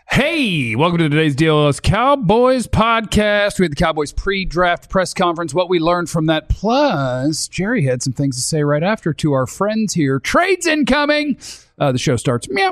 Hey, welcome to today's DLS Cowboys podcast. We had the Cowboys pre-draft press conference, what we learned from that. Plus, Jerry had some things to say right after to our friends here. Trades incoming. The show starts. Meow.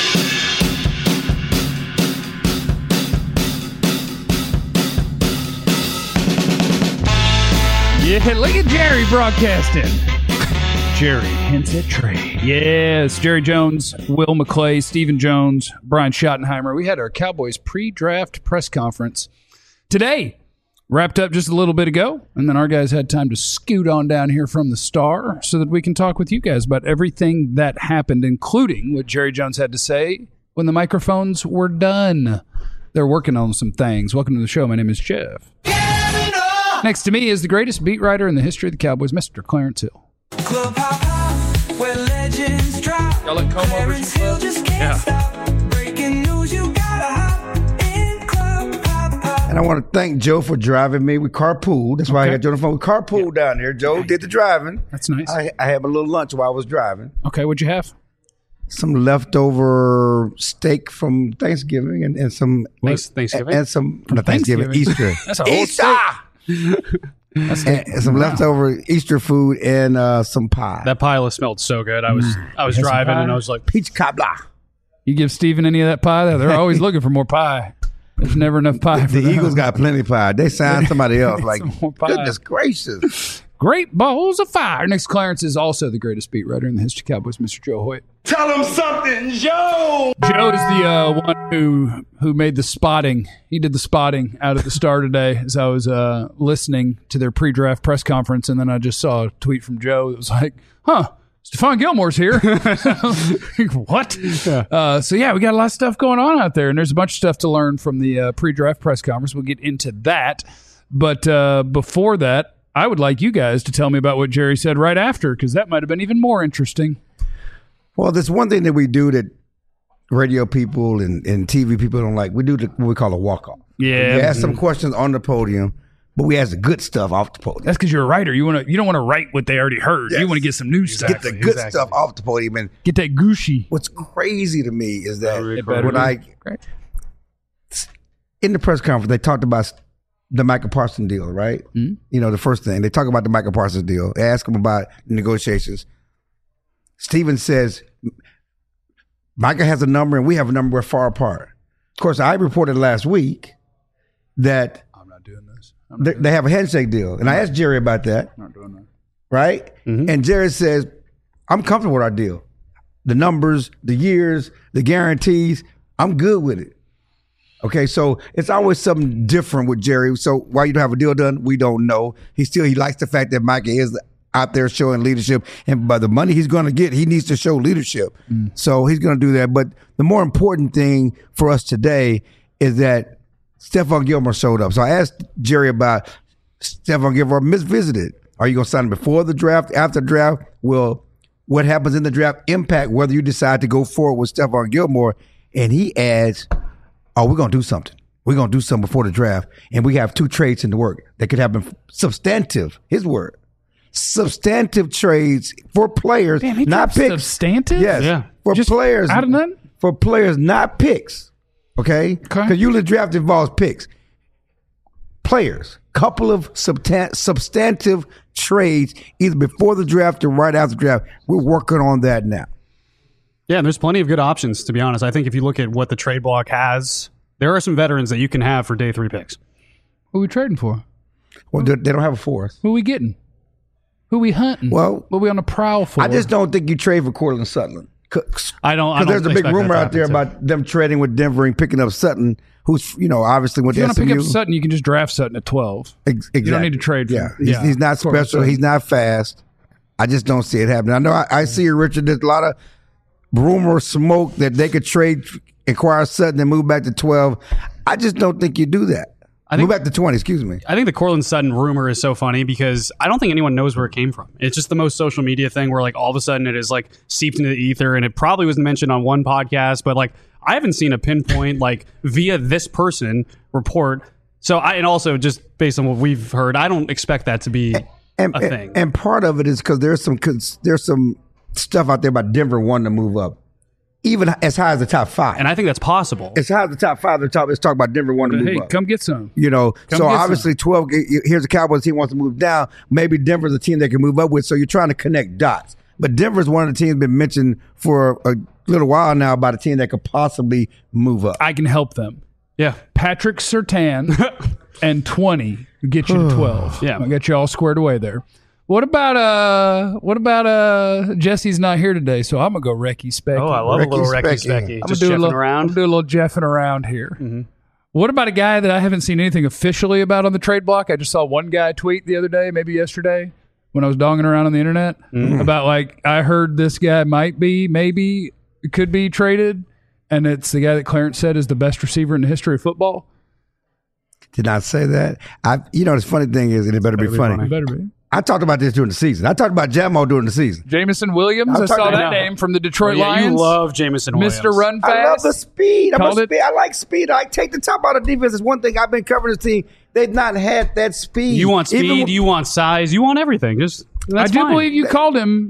Yeah, look at Jerry broadcasting. Jerry hints at trade. Yes, Jerry Jones, Will McClay, Stephen Jones, Brian Schottenheimer. We had our Cowboys pre-draft press conference today. Wrapped up just a little bit ago, and then our guys had time to scoot on down here from the Star so that we can talk with you guys about everything that happened, including what Jerry Jones had to say when the microphones were done. They're working on some things. Welcome to the show. My name is Jeff. Next to me is the greatest beat writer in the history of the Cowboys, Mr. Clarence Hill. Club hop hop, where legends drop. Y'all let Comb over Clarence Hill just can't stop. Breaking news, you gotta hop in Club hop hop. And I want to thank Joe for driving me. We carpooled. That's why I got Joe on the phone. We carpooled down there. Joe did the driving. That's nice. I had a little lunch while I was driving. Okay, what'd you have? Some leftover steak from Thanksgiving and some Thanksgiving? and some not Thanksgiving, Easter. That's a whole Easter. And some Wow. leftover Easter food and some pie. That pile smelled so good. I was driving and I was like, Peach cobbler. You give Steven any of that pie? They're always looking for more pie. There's never enough pie for The them. Eagles got plenty of pie. They signed somebody else. Like, Some more pie. goodness gracious. Great balls of fire. Next, Clarence is also the greatest beat writer in the history of Cowboys, Mr. Joe Hoyt. Tell them something, Joe. Joe is the one who made the spotting. He did the spotting out at the Star today as I was listening to their pre-draft press conference, and then I just saw a tweet from Joe that was like, Stephon Gilmore's here. What? Yeah. So, we got a lot of stuff going on out there, and there's a bunch of stuff to learn from the pre-draft press conference. We'll get into that. But before that, I would like you guys to tell me about what Jerry said right after, because that might have been even more interesting. Well, there's one thing that we do that radio people and TV people don't like. We do what we call a walk-off. Yeah. We ask some questions on the podium, but we ask the good stuff off the podium. That's because you're a writer. You don't want to write what they already heard. Yes. You want to get some new stuff. Get the good stuff off the podium. And Get that gushy. what's crazy to me is that It better when be. in the press conference, they talked about the Michael Parsons deal, right? Mm-hmm. You know, the first thing. They talk about the Michael Parsons deal. They ask him about negotiations. Steven says, Michael has a number and we have a number. We're far apart. Of course, I reported last week that I'm not doing this. they have a handshake deal. And I asked Jerry about that, I'm not doing that. right? Mm-hmm. And Jerry says, I'm comfortable with our deal. The numbers, the years, the guarantees, I'm good with it. Okay, so it's always something different with Jerry. So why you don't have a deal done, we don't know. He likes the fact that Micah is out there showing leadership, and by the money he's going to get, he needs to show leadership. So he's going to do that. But the more important thing for us today is that Stephon Gilmore showed up. So I asked Jerry about Stephon Gilmore visited. Are you going to sign him before the draft, after the draft? Will what happens in the draft impact whether you decide to go forward with Stephon Gilmore? And he adds, we're going to do something. We're going to do something before the draft. And we have two trades in the work that could happen substantive, his word. Substantive trades for players, Damn, he not dropped picks. substantive? Yes. Yeah. For Just players. out of nothing? For players, not picks. Okay? Because usually draft involves picks. Players. Couple of substantive trades either before the draft or right after the draft. We're working on that now. yeah, and there's plenty of good options, to be honest. I think if you look at what the trade block has, there are some veterans that you can have for day 3 picks. Who we trading for? Well, they don't have a fourth. Who we getting? Who we hunting? Well, what we on the prowl for? I just don't think you trade for Cortland Sutton. I don't Because there's a big expect rumor that to out there happen, too. about them trading with Denver and picking up Sutton, who's, obviously went If you to want to SMU. pick up Sutton, you can just draft Sutton at 12. Exactly. You don't need to trade for Yeah, him. he's not Cortland special. Sutton. He's not fast. I just don't see it happening. I know I see you, Richard. There's a lot of rumor smoke that they could trade, acquire Sutton and move back to 12. I just don't think you do that. Move back to 20, excuse me. I think the Cortland Sutton rumor is so funny because I don't think anyone knows where it came from. It's just the most social media thing where like all of a sudden it is like seeped into the ether, and it probably was mentioned on one podcast, but like I haven't seen a pinpoint like via this person report. So and also just based on what we've heard, I don't expect that to be a thing. And part of it is because there's some stuff out there about Denver wanting to move up. even as high as the top 5. And I think that's possible. As high as the top 5, let's talk about Denver wanting to move Hey, up. come get some. You know, Come so get obviously 12. Here's a Cowboys team wants to move down. Maybe Denver's a team they can move up with. So you're trying to connect dots. But Denver's one of the teams been mentioned for a little while now about a team that could possibly move up. I can help them. Yeah. Patrick Surtain and 20 get you to 12. Yeah. I got you all squared away there. What about Jesse's not here today, so I'm gonna go Recky Specky. Oh, I love a little Recky Recky Specky. Specky. I'm Just gonna do checking around. I'm gonna do a little jeffing around here. What about a guy that I haven't seen anything officially about on the trade block? I just saw one guy tweet the other day, maybe yesterday, when I was donging around on the internet about I heard this guy maybe could be traded, and it's the guy that Clarence said is the best receiver in the history of football. Did not say that. The funny thing is, and it better be funny. It better be. I talked about this during the season. I talked about Jamo during the season. Jameson Williams, I I'm saw talking that about- name from the Detroit Yeah, Lions. you love Jameson Williams. Mr. Run Fast. I love the speed. Called it- I like speed. I take the top out of defense. It's one thing I've been covering this team. They've not had that speed. You want speed, Even- you want size, you want everything. Just I that's do fine. believe you called him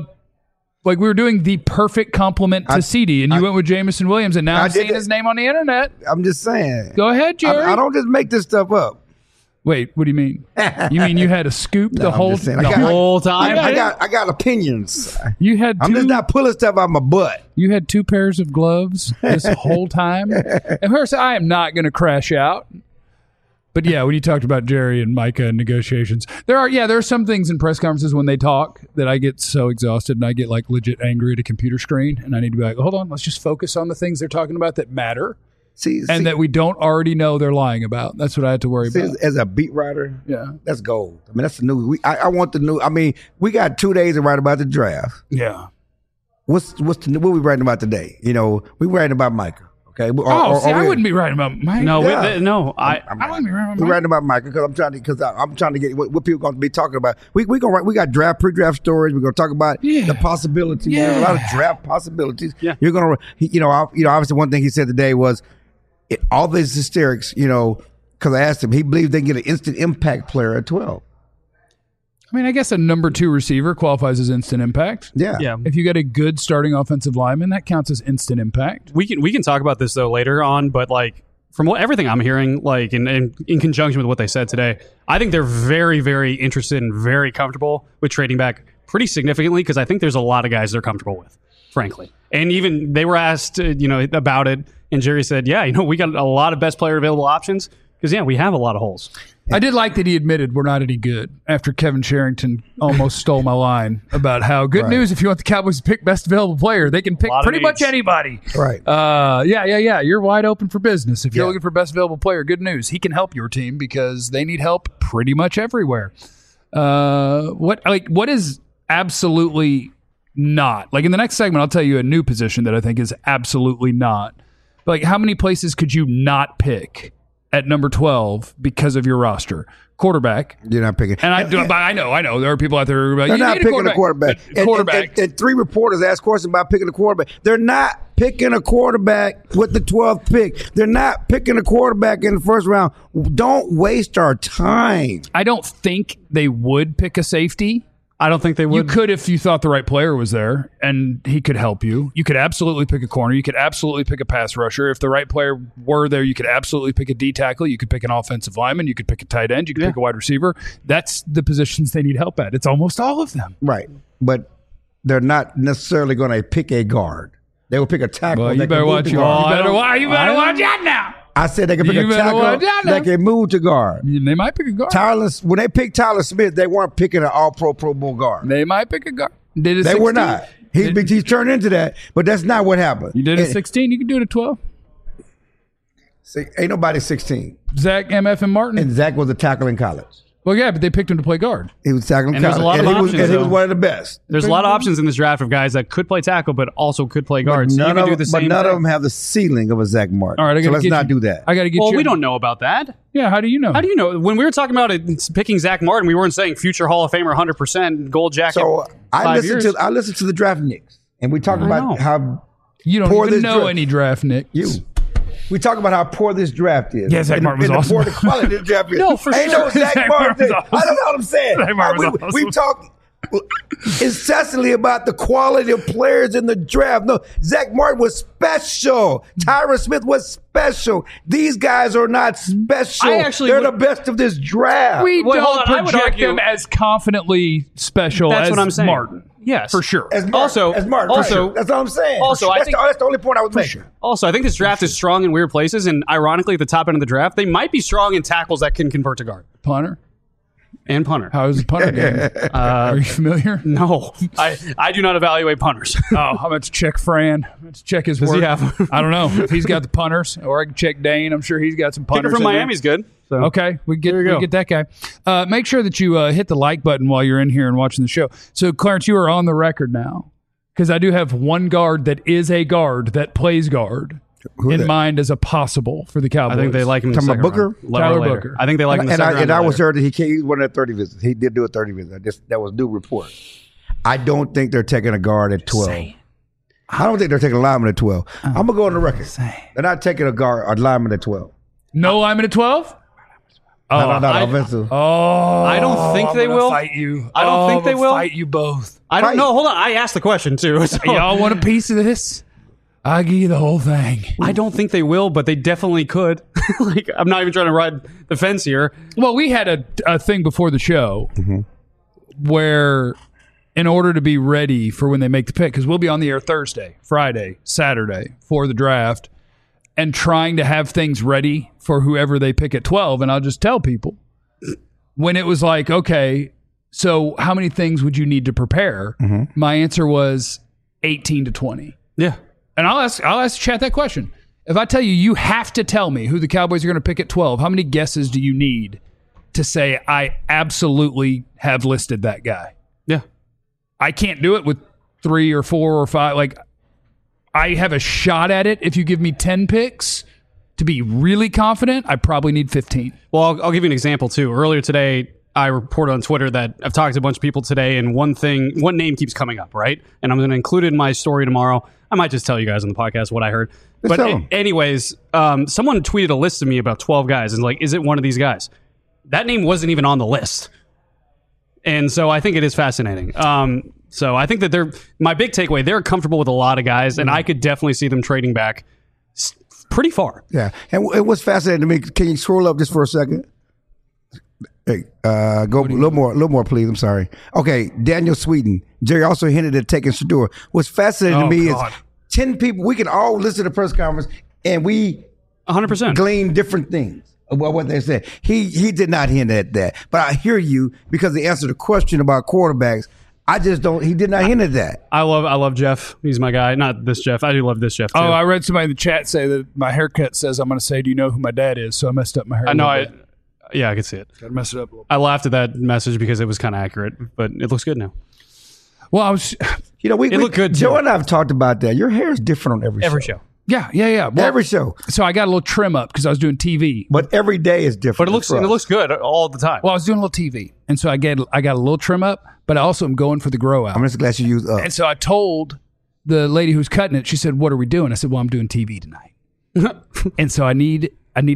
we were doing the perfect compliment to CD, and you went with Jameson Williams, and now I I'm did seeing it. his name on the internet. I'm just saying. Go ahead, Jerry. I don't just make this stuff up. Wait, what do you mean? You mean you had a scoop the I'm whole just saying. the I got- whole time? I got opinions. You had I'm two, just not pulling stuff out my butt. you had 2 pairs of gloves this whole time. And first, I am not going to crash out. But yeah, when you talked about Jerry and Micah and negotiations, there are some things in press conferences when they talk that I get so exhausted and I get legit angry at a computer screen, and I need to be like, hold on, let's just focus on the things they're talking about that matter See, and that we don't already know they're lying about. That's what I had to worry about. as a beat writer, Yeah. that's gold. I mean, that's the new. I want the new. I mean, we got 2 days to write about the draft. Yeah. What we writing about today? We writing about Micah. Okay. I wouldn't be writing about Mike. No, Yeah. I wouldn't be writing about We're Mike. writing about Micah because I'm trying to get what people going to be talking about. We gonna write. We got pre-draft stories. We're going to talk about the possibilities. Yeah. A lot of draft possibilities. Yeah. You're going to. Obviously, one thing he said today was all these hysterics. Because I asked him, he believes they can get an instant impact player at 12. I mean, I guess a number 2 receiver qualifies as instant impact. Yeah. Yeah. If you got a good starting offensive lineman, that counts as instant impact. We can talk about this though later on, but from everything I'm hearing, in conjunction with what they said today, I think they're very, very interested and very comfortable with trading back pretty significantly because I think there's a lot of guys they're comfortable with, frankly. And even they were asked, about it, and Jerry said, "Yeah, we got a lot of best player available options because we have a lot of holes." I did like that he admitted we're not any good after Kevin Sherrington almost stole my line about how good news if you want the Cowboys to pick best available player, they can pick Lot of pretty much needs. anybody. Right. Yeah. You're wide open for business. If you're Yeah. looking for best available player, good news. He can help your team because they need help pretty much everywhere. What is absolutely not? In the next segment, I'll tell you a new position that I think is absolutely not. But how many places could you not pick at number 12 because of your roster? Quarterback. You're not picking. And I know there are people out there who are like, They're you not need picking a quarterback. But quarterback. And 3 reporters asked questions about picking a quarterback. They're not picking a quarterback with the 12th pick. They're not picking a quarterback in the first round. Don't waste our time. I don't think they would pick a safety. I don't think they would. You could if you thought the right player was there and he could help you. You could absolutely pick a corner. You could absolutely pick a pass rusher. If the right player were there, you could absolutely pick a D tackle. You could pick an offensive lineman. You could pick a tight end. You could pick a wide receiver. That's the positions they need help at. It's almost all of them. Right. But they're not necessarily going to pick a guard. They will pick a tackle. Well, that you better can move watch to your. guard. You better watch out now. I said they can pick You a better tackle watch out now. that can move to guard. They might pick a guard. When they picked Tyler Smith, they weren't picking an all-pro Pro Bowl guard. They might pick a guard. Did it They 16? were not. He's turned into that, but that's not what happened. You did it 16. You can do it at 12. Ain't nobody 16. Zach, MF, and Martin. And Zach was a tackle in college. Well, yeah, but they picked him to play guard. He was tackling And there's college. a lot of and he was, options, and he was though. one of the best. There's a lot of options in this draft of guys that could play tackle, but also could play guard. So you can do the same none of thing. them have the ceiling of a Zach Martin. All right, so let's not do that. I got to get Well, you. we don't know about that. Yeah, how do you know? How do you know? When we were talking about picking Zach Martin, we weren't saying future Hall of Famer 100% gold jacket. So I 5 listened years. to the draft Knicks, and we talked know. about how You don't poor even this know draft- any draft Knicks. We talk about how poor this draft is. Yeah, Zach Martin was and awesome. the poor the quality of this draft is. No, for Ain't sure. no Zach Zach Martin. Martin was awesome. I don't know what I'm saying. Zach Martin was We awesome. talk. incessantly about the quality of players in the draft. No, Zach Martin was special. Tyron Smith was special. These guys are not special. I actually They're would- the best of this draft. We Wait, hold don't on, I would project argue- them as confidently special That's as what I'm saying. Martin. Yes. For sure. As Martin, Also- as Martin, also- for sure. That's all I'm saying. also, I that's, think- that's the only point I was making. Also, I think this draft is strong in weird places, and ironically, at the top end of the draft, they might be strong in tackles that can convert to guard Punter? and punter. How is the punter game? Are you familiar? No, I do not evaluate punters. Oh, I'm about to check Fran. Let's check his Does work. he have- I don't know if he's got the punters, or I can check Dane. I'm sure he's got some punters. Kicker from in there. Miami's good. So. Okay, we There you go. get that guy. Make sure that you hit the like button while you're in here and watching the show. So, Clarence, you are on the record now because I do have one guard that is a guard that plays guard Who in that? mind as a possible for the Cowboys. I think they like him in the Talking second about Booker? round. Tyler Later. Booker. I think they like him in the And second round. I was later. heard that he went at 30 visits. He did do a 30 visit. That was new report. I don't think they're taking a guard at 12. I don't think they're taking a lineman at 12. I'm gonna go on the record. They're not taking a lineman at 12. no lineman at 12. Not I- offensive. Oh, I don't think I'm they gonna will. fight you. I don't think I'm they gonna will. fight you both. I don't Fight. know. Hold on. I asked the question too. So Y'all want a piece of this? I'll give you the whole thing. I don't think they will, but they definitely could. Like, I'm not even trying to ride the fence here. Well, we had a thing before the show where, in order to be ready for when they make the pick, because we'll be on the air Thursday, Friday, Saturday for the draft, and trying to have things ready for whoever they pick at 12. And I'll just tell people when it was like, okay, so how many things would you need to prepare? My answer was 18 to 20. Yeah. And I'll ask chat that question. If I tell you, you have to tell me who the Cowboys are going to pick at 12, how many guesses do you need to say I absolutely have listed that guy? Yeah. I can't do it with 3 or 4 or 5. Like, I have a shot at it. If you give me 10 picks to be really confident, I probably need 15. Well, I'll give you an example too. Earlier today, I reported on Twitter that I've talked to a bunch of people today, and one name keeps coming up, right? And I'm going to include it in my story tomorrow. I might just tell you guys on the podcast what I heard. Let's But tell 'em. anyways, someone tweeted a list to me about 12 guys, and like, is it one of these guys? That name wasn't even on the list. And so I think it is fascinating. So I think that my big takeaway, they're comfortable with a lot of guys, and I could definitely see them trading back pretty far. Yeah. And what's fascinating to me, can you scroll up just for a second? Hey, go a little more, please. I'm sorry. Okay, Daniel Sweden. Jerry also hinted at taking Shador. What's fascinating to Oh, me God. is 10 people, we can all listen to the press conference and we 100%. glean different things about what they said. He did not hint at that. But I hear you because they answered the question about quarterbacks. I just don't, he did not hint at that. I love Jeff. He's my guy. Not this Jeff. I do love this Jeff too. Oh, I read somebody in the chat say that my haircut says I'm going to say, do you know who my dad is? So I messed up my hair. I know. Yeah, I could see it. Got to mess it up a little bit. I laughed at that message because it was kind of accurate, but it looks good now. Well, I was, You know, we looked good, Joe too. and I have talked about that. Your hair is different on every show. yeah. Well, Every show. so I got a little trim up because I was doing TV. But every day is different. But it looks good all the time. Well, I was doing a little TV, and so I got a little trim up, but I also am going for the grow out. I'm just glad you used up. And so I told the lady who's cutting it. She said, "What are we doing?" I said, "Well, I'm doing TV tonight." And so I need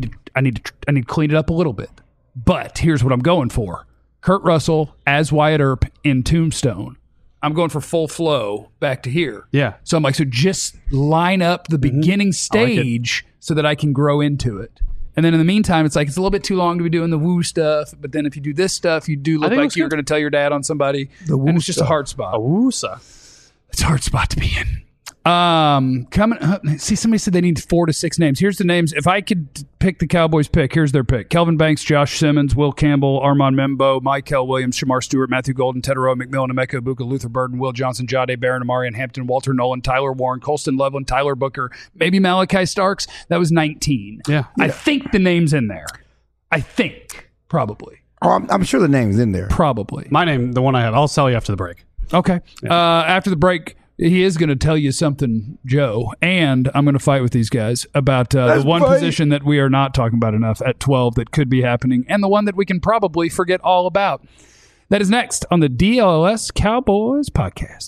to clean it up a little bit. But here's what I'm going for: Kurt Russell as Wyatt Earp in Tombstone. I'm going for full flow back to here. Yeah. So I'm like, so just line up the beginning stage so that I can grow into it. And then in the meantime, it's like it's a little bit too long to be doing the woo stuff. But then if you do this stuff, you do look think it like looks you're good. going to tell your dad on somebody. woo And it's just a stuff. hard spot. Awoosa. It's a hard spot to be in. Coming up, see, somebody said they need 4 to 6 names. Here's the names. If I could pick the Cowboys pick, here's their pick: Kelvin Banks, Josh Simmons, Will Campbell, Armand Membo, Michael Williams, Shamar Stewart, Matthew Golden, Tedero, McMillan, Emeka Ibuka, Luther Burden, Will Johnson, Jade Barron, Amarian Hampton, Walter Nolan, Tyler Warren, Colston Loveland, Tyler Booker, maybe Malachi Starks. That was 19. Yeah. I think the name's in there. I think. Probably. Oh, I'm sure the name's in there. Probably. My name, the one I have. I'll tell you after the break. Okay. After the break, he is going to tell you something, Joe, and I'm going to fight with these guys about the Let's one fight. position that we are not talking about enough at 12 that could be happening, and the one that we can probably forget all about. That is next on the DLS Cowboys podcast.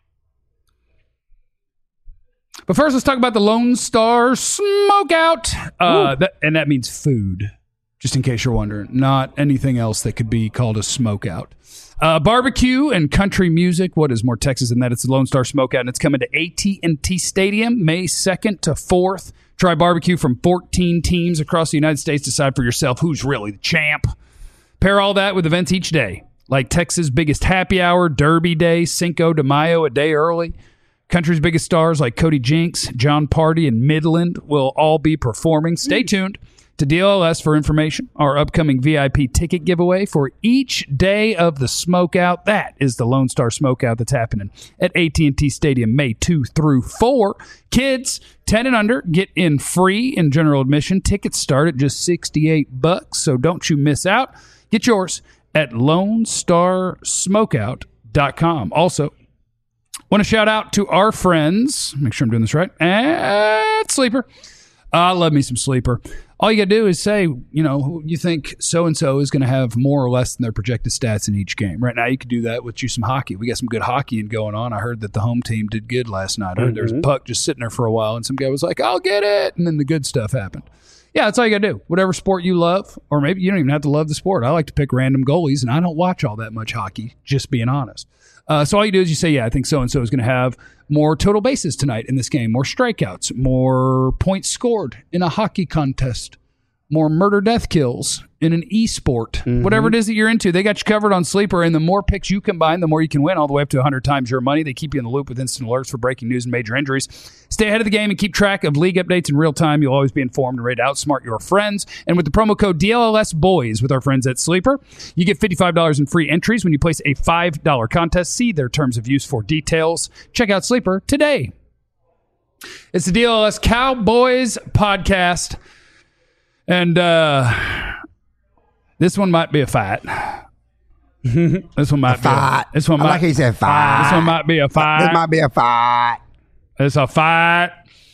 But first, let's talk about the Lone Star Smokeout. And that means food. Just in case you're wondering, not anything else that could be called a smokeout. Barbecue and country music. What is more Texas than that? It's the Lone Star Smokeout, and it's coming to AT&T Stadium May 2nd to 4th. Try barbecue from 14 teams across the United States. Decide for yourself who's really the champ. Pair all that with events each day, like Texas' biggest happy hour, Derby Day, Cinco de Mayo a day early. Country's biggest stars like Cody Jinks, John Party, and Midland will all be performing. Stay tuned to DLS for information. Our upcoming VIP ticket giveaway for each day of the Smokeout. That is the Lone Star Smokeout that's happening at AT&T Stadium May 2 through 4. Kids 10 and under get in free in general admission. Tickets start at just $68, so don't you miss out. Get yours at LoneStarSmokeout.com. Also, want to shout out to our friends, make sure I'm doing this right, at Sleeper. I love me some Sleeper. All you got to do is say, you think so-and-so is going to have more or less than their projected stats in each game. Right now, you could do that with you some hockey. We got some good hockey going on. I heard that the home team did good last night. I heard there was a puck just sitting there for a while, and some guy was like, I'll get it, and then the good stuff happened. Yeah, that's all you got to do. Whatever sport you love, or maybe you don't even have to love the sport. I like to pick random goalies, and I don't watch all that much hockey, just being honest. So all you do is you say, I think so-and-so is going to have more total bases tonight in this game, more strikeouts, more points scored in a hockey contest, more murder-death kills in an e-sport. Whatever it is that you're into, they got you covered on Sleeper, and the more picks you combine, the more you can win, all the way up to 100 times your money. They keep you in the loop with instant alerts for breaking news and major injuries. Stay ahead of the game and keep track of league updates in real time. You'll always be informed and ready to outsmart your friends. And with the promo code DLLSBOYS with our friends at Sleeper, you get $55 in free entries when you place a $5 contest. See their terms of use for details. Check out Sleeper today. It's the DLS Cowboys podcast. And this one might be a fight. This one might be fight. This one I might, like how you said fight. This one might be a fight. This might be a fight. It's a fight.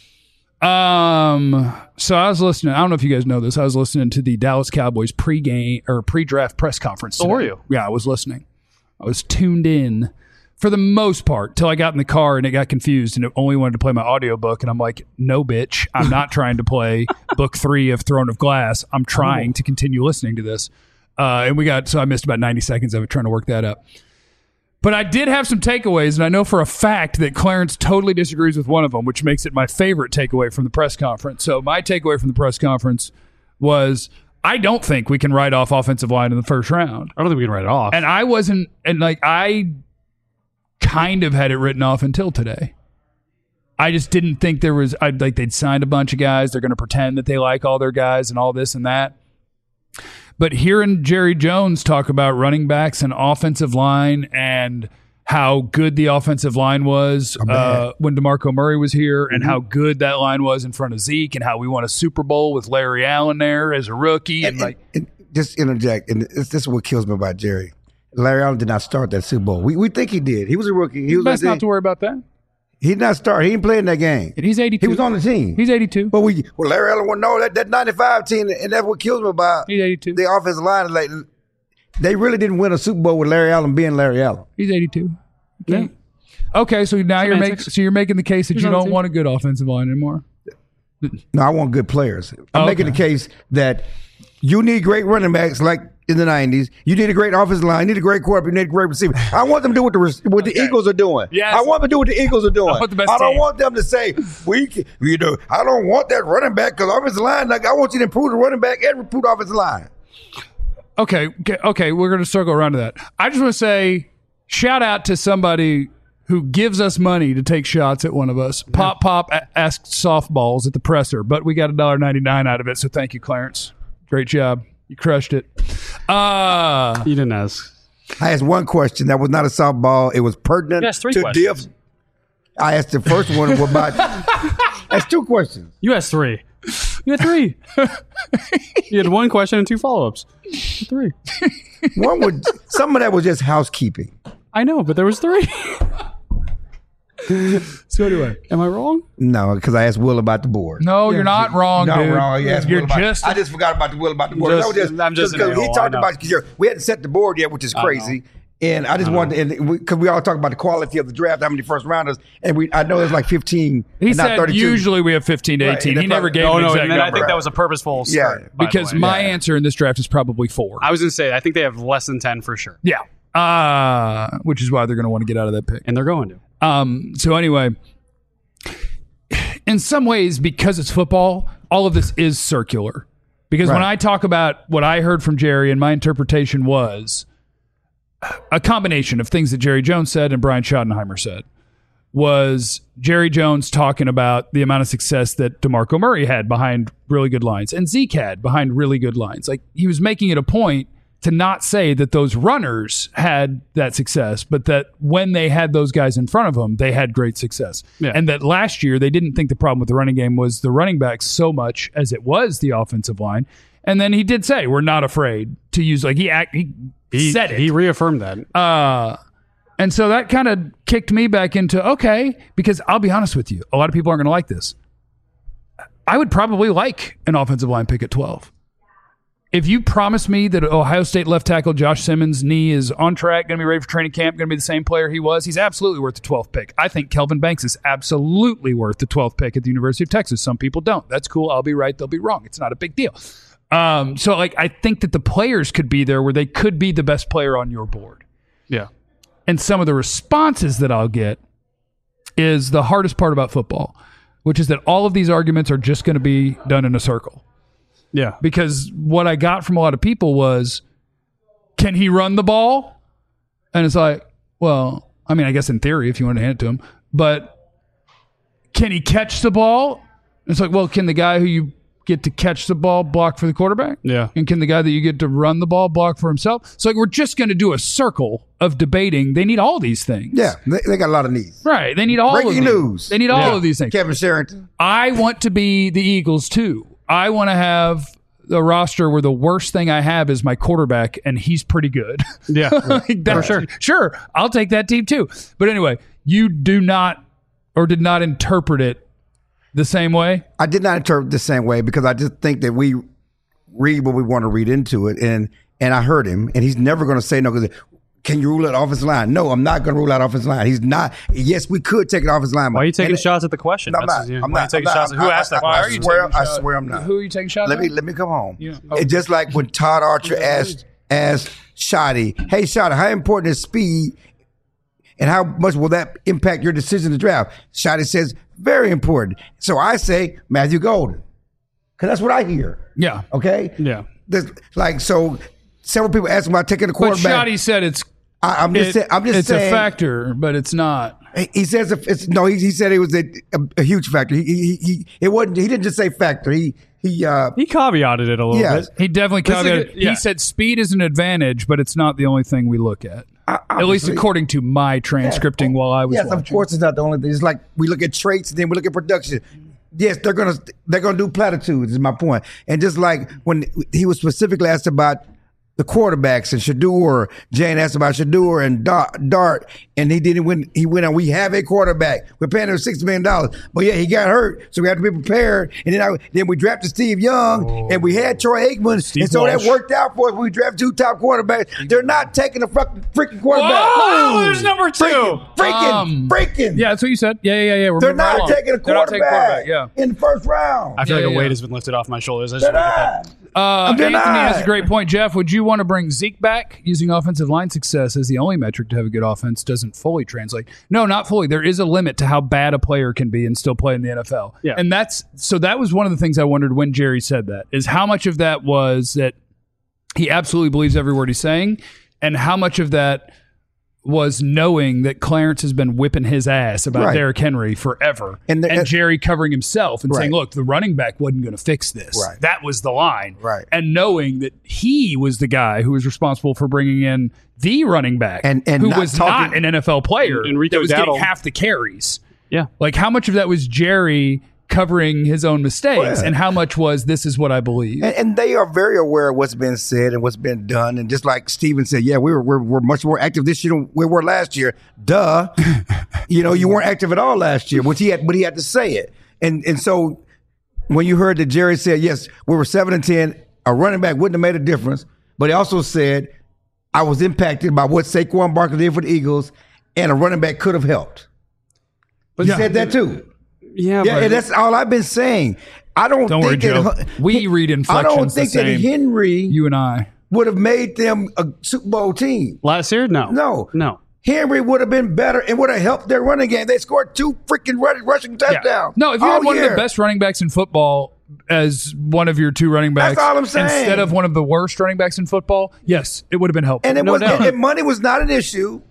So I was listening. I don't know if you guys know this. I was listening to the Dallas Cowboys pregame or pre-draft press conference today. Oh, were you? Yeah, I was listening. I was tuned in for the most part till I got in the car and it got confused and it only wanted to play my audiobook. And I'm like, no, bitch, I'm not trying to play book 3 of Throne of Glass. I'm trying to continue listening to this. So I missed about 90 seconds of it trying to work that up. But I did have some takeaways, and I know for a fact that Clarence totally disagrees with one of them, which makes it my favorite takeaway from the press conference. So my takeaway from the press conference was, I don't think we can write off offensive line in the first round. I don't think we can write it off. And I kind of had it written off until today. I just didn't think there was, they'd signed a bunch of guys. They're going to pretend that they like all their guys and all this and that. But hearing Jerry Jones talk about running backs and offensive line and how good the offensive line was when DeMarco Murray was here and how good that line was in front of Zeke and how we won a Super Bowl with Larry Allen there as a rookie. And just interject, and this is what kills me about Jerry. Larry Allen did not start that Super Bowl. We think he did. He was a rookie. He was best not to worry about that. He did not start. He didn't play in that game. And he's 82. He was on the team. He's 82. But Larry Allen wouldn't know that 95 team, and that's what kills me about He's 82. the offensive line. Is like, they really didn't win a Super Bowl with Larry Allen being Larry Allen. He's 82. Okay. Okay, so now you're making the case that you don't want a good offensive line anymore. No, I want good players. I'm making the case that you need great running backs like in the 90s. You need a great offensive line. You need a great quarterback. You need a great receiver. I want them to do what the Eagles are doing. Yes. I want them to do what the Eagles are doing. I want the best I don't team. want them to say, I don't want that running back because offensive line. Like, I want you to improve the running back and improve the offensive line. Okay, we're going to circle around to that. I just want to say, shout out to somebody who gives us money to take shots at one of us. Pop asked softballs at the presser, but we got $1.99 out of it, so thank you, Clarence. Great job. You crushed it. You didn't ask. I asked one question that was not a softball. It was pertinent You asked 3 to questions. I asked the first one about. That's 2 questions. You asked 3. You had 3. You had 1 question and 2 follow-ups. 3. Some of that was just housekeeping. I know, but there was 3. So anyway. Am I wrong? No, because I asked Will about the board. No, you're not wrong, No, dude. wrong. I just forgot about the Will about the board. I'm just an Because he a-hole, talked I know. about because we hadn't set the board yet, which is crazy. And I just wanted, because we all talk about the quality of the draft, how many first rounders, and I know there's like 15. He and not said 32. usually we have 15 to 18. Right, He that's never right. gave Oh an no, exact and then I number. think that was a purposeful start. Yeah. by the Because way. my answer in this draft is probably 4. I was going to say I think they have less than 10 for sure, Yeah. Which is why they're going to want to get out of that pick. and they're going to. So anyway, in some ways, because it's football, all of this is circular. Because when Right. I talk about what I heard from Jerry, and my interpretation was a combination of things that Jerry Jones said and Brian Schottenheimer said, was Jerry Jones talking about the amount of success that DeMarco Murray had behind really good lines and Zeke had behind really good lines. Like, he was making it a point to not say that those runners had that success, but that when they had those guys in front of them, they had great success. Yeah. And that last year, they didn't think the problem with the running game was the running backs so much as it was the offensive line. And then he did say, we're not afraid to use, like, he said it. He reaffirmed that. And so that kind of kicked me back into, okay, because I'll be honest with you, a lot of people aren't going to like this. I would probably like an offensive line pick at 12. If you promise me that Ohio State left tackle Josh Simmons' knee is on track, going to be ready for training camp, going to be the same player he was, he's absolutely worth the 12th pick. I think Kelvin Banks is absolutely worth the 12th pick at the University of Texas. Some people don't. That's cool. I'll be right. They'll be wrong. It's not a big deal. So, like, I think that the players could be there where they could be the best player on your board. Yeah. And some of the responses that I'll get is the hardest part about football, which is that all of these arguments are just going to be done in a circle. Yeah. Because what I got from a lot of people was, can he run the ball? And it's like, well, I mean, I guess in theory, if you want to hand it to him, but can he catch the ball? It's like, well, can the guy who you get to catch the ball block for the quarterback? Yeah. And can the guy that you get to run the ball block for himself? So, like, we're just going to do a circle of debating. They need all these things. Yeah, they got a lot of needs. Right. They need all of Breaking these. news. They need all of these things. Kevin Sherrington. I want to be the Eagles too. I want to have a roster where the worst thing I have is my quarterback, and he's pretty good. Yeah. Like that, For sure. Sure, I'll take that team too. But anyway, you do not or did not interpret it the same way. I did not interpret the same way because I just think that we read what we want to read into it, and I heard him, and he's never going to say no. Because can you rule out offensive line? No, I'm not going to rule out offensive line. He's not. Yes, we could take an offensive line. Why are you taking shots at the question? No, I'm That's- not. yeah, I'm why are you not. taking I'm shots not. at- Who asked that I question? swear I'm not. Who are you taking shots at? Let me come home. Yeah. It's just like when Todd Archer asked Shotty, "Hey Shotty, how important is speed, and how much will that impact your decision to draft?" Shotty says, "Very important." So I say Matthew Golden, because that's what I hear. Yeah. Okay. Yeah. There's, like, so several people ask about taking a But quarterback. Shotty said I'm just saying. it's saying, a factor, but it's not. He says it's no. He said it was a huge factor. It wasn't. He didn't just say factor. He He caveated it a little Yeah. bit. He definitely This is a caveated. good- yeah. He said speed is an advantage, but it's not the only thing we look at. At least obviously. according to my transcripting while I was Yes, watching. of course, it's not the only thing. It's like we look at traits, and then we look at production. Yes, they're gonna do platitudes. Is my point. And just like when he was specifically asked about the quarterbacks and Shador, Jane asked about Shador and Dart, and he didn't win. He went on. We have a quarterback. We're paying him $6 million, but yeah, he got hurt, so we have to be prepared. And then we drafted Steve Young, and we had Troy Aikman, Steve and so Walsh. that worked out for us. We drafted 2 top quarterbacks. They're not taking a freaking quarterback. Whoa, there's number 2. Freaking. Yeah, that's what you said. Yeah. We're They're moving right not along. taking a They're not taking quarterback Yeah. in the first round. I feel Yeah, like a yeah. weight has been lifted off my shoulders. I just They're want to get that. not. Anthony denied. has a great point. Jeff, would you want to bring Zeke back? Using offensive line success as the only metric to have a good offense doesn't fully translate. No, not fully. There is a limit to how bad a player can be and still play in the NFL. Yeah. And that was one of the things I wondered when Jerry said that, is how much of that was that he absolutely believes every word he's saying, and how much of that was knowing that Clarence has been whipping his ass about Right. Derrick Henry forever, And and, the- Jerry covering himself and Right. saying, look, the running back wasn't going to fix this. Right. That was the line. Right. And knowing that he was the guy who was responsible for bringing in the running back And who not was talking- not an NFL player Enrico that was getting Dattle. half the carries. Yeah. Like, how much of that was Jerry covering his own mistakes, Yeah. and how much was this is what I believe? And they are very aware of what's been said and what's been done. And just like Steven said, yeah, we're much more active this year than we were last year. Duh. You weren't active at all last year, but he had to say it. And so when you heard that Jerry said, yes, we were 7-10, a running back wouldn't have made a difference, but he also said I was impacted by what Saquon Barkley did for the Eagles, and a running back could have helped. But you said that too. Yeah, Yeah, but and that's all I've been saying. I don't Worry, think Joe. that We read I inflections don't think the that same. Henry You and I. would have made them a Super Bowl team. last year, no. No. Henry would have been better and would have helped their running game. They scored 2 freaking rushing touchdowns. No, if you all had one of year. the best running backs in football as one of your 2 running backs, That's all I'm saying. instead of one of the worst running backs in football, yes, it would have been helpful. And it no was doubt. and money was not an issue.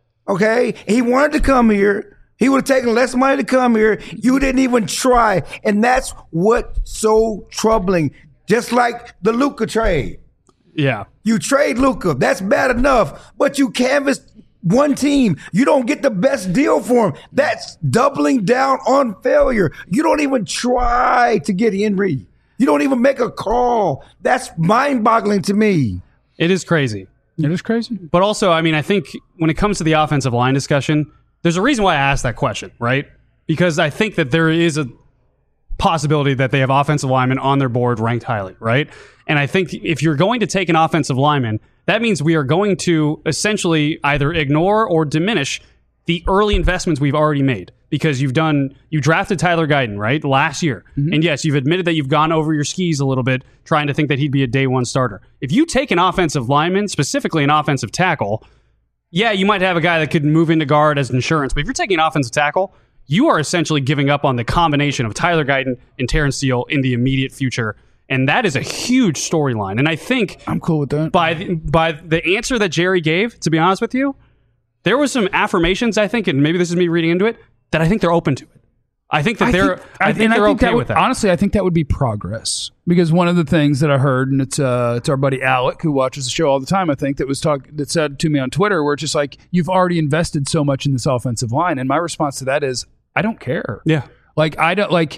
Okay? He wanted to come here. He would have taken less money to come here. You didn't even try. And that's what's so troubling. Just like the Luka trade. Yeah. You trade Luka. That's bad enough. But you canvassed one team. You don't get the best deal for him. That's doubling down on failure. You don't even try to get Henry. You don't even make a call. That's mind-boggling to me. It is crazy. It is crazy. But also, I mean, I think when it comes to the offensive line discussion, there's a reason why I asked that question, right? Because I think that there is a possibility that they have offensive linemen on their board ranked highly, right? And I think if you're going to take an offensive lineman, that means we are going to essentially either ignore or diminish the early investments we've already made. Because you drafted Tyler Guyton, right, last year. Mm-hmm. And yes, you've admitted that you've gone over your skis a little bit trying to think that he'd be a day one starter. If you take an offensive lineman, specifically an offensive tackle, yeah, you might have a guy that could move into guard as insurance. But if you're taking an offensive tackle, you are essentially giving up on the combination of Tyler Guyton and Terrence Steele in the immediate future. And that is a huge storyline. And I think I'm cool with that. by the answer that Jerry gave, to be honest with you, there was some affirmations, I think, and maybe this is me reading into it, that I think they're open to it. I think that they're okay with that. Honestly, I think that would be progress. Because one of the things that I heard, and it's our buddy Alec, who watches the show all the time, I think, that said to me on Twitter, where it's just like, you've already invested so much in this offensive line. And my response to that is, I don't care. Yeah. Like, I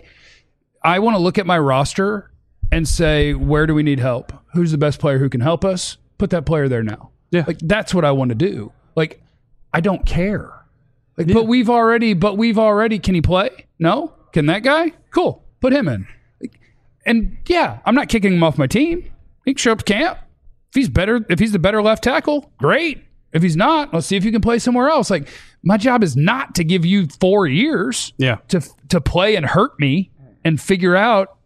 want to look at my roster and say, where do we need help? Who's the best player who can help us? Put that player there now. Yeah. Like, that's what I want to do. Like, I don't care. Like, but we've already, can he play? No? Can that guy? Cool. Put him in. And yeah, I'm not kicking him off my team. He can show up to camp. If he's the better left tackle, great. If he's not, let's see if you can play somewhere else. Like, my job is not to give you 4 years to play and hurt me and figure out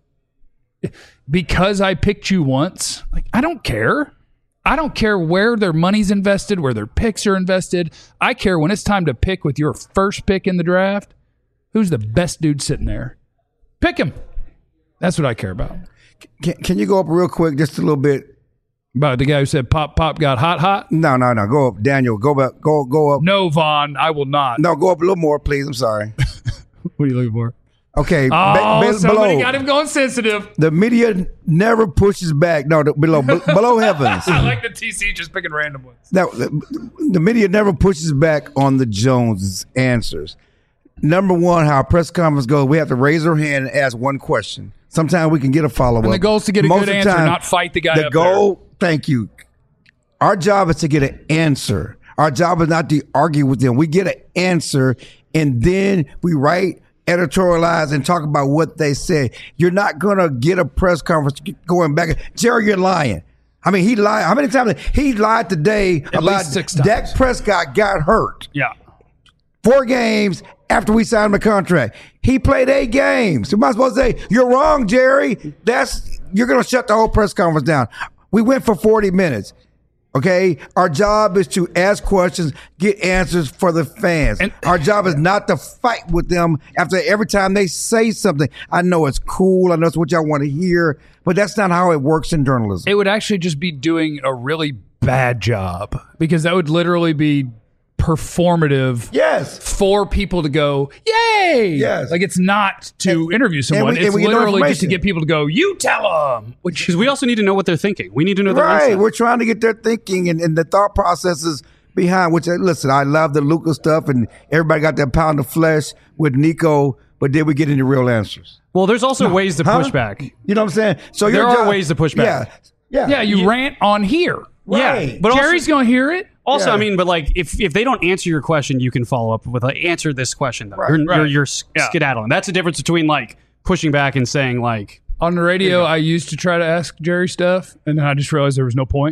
because I picked you once. Like, I don't care. I don't care where their money's invested, where their picks are invested. I care when it's time to pick with your first pick in the draft, who's the best dude sitting there. Pick him. That's what I care about. Can you go up real quick, just a little bit? About the guy who said pop got hot? No. Go up, Daniel. Go back. Go up. No, Vaughn, I will not. No, go up a little more, please. I'm sorry. What are you looking for? Okay. Somebody below. got him going sensitive. The media never pushes back. No, below heavens. I like the TC just picking random ones. Now, the media never pushes back on the Jones answers. Number one, how a press conference goes, we have to raise our hand and ask one question. Sometimes we can get a follow-up. And the goal is to get a Most good of answer, the time, not fight the guy the up goal, thank you. Our job is to get an answer. Our job is not to argue with them. We get an answer, and then we write, editorialize, and talk about what they said. You're not going to get a press conference going back. Jerry, you're lying. I mean, he lied. How many times? He lied today At about least 6 times. Dak Prescott got hurt. Yeah. 4 games after we signed him a contract. He played 8 games. You might as well say, you're wrong, Jerry. You're going to shut the whole press conference down. We went for 40 minutes. Okay? Our job is to ask questions, get answers for the fans. And our job is not to fight with them after every time they say something. I know it's cool. I know it's what y'all want to hear, but that's not how it works in journalism. It would actually just be doing a really bad job because that would literally be performative Yes. for people to go, yay! Yes. Like, it's not to interview someone. and It's we get no literally just to information. get people to go, you tell them. Which Because we also need to know what they're thinking. We need to know their Right. mindset. We're trying to get their thinking and the thought processes behind, which, listen, I love the Luka stuff and everybody got that pound of flesh with Nico, but did we get any real answers? Well, there's also ways to Huh? push back. You know what I'm saying? So There your are job- ways to push back. Yeah. yeah, you rant on here. Right. Yeah, but Jerry's going to hear it. Also, Yeah. I mean, but like, if they don't answer your question, you can follow up with like, answer this question though. Right, You're skedaddling. That's the difference between like pushing back and saying like, On the radio, I used to try to ask Jerry stuff, and then I just realized there was no point.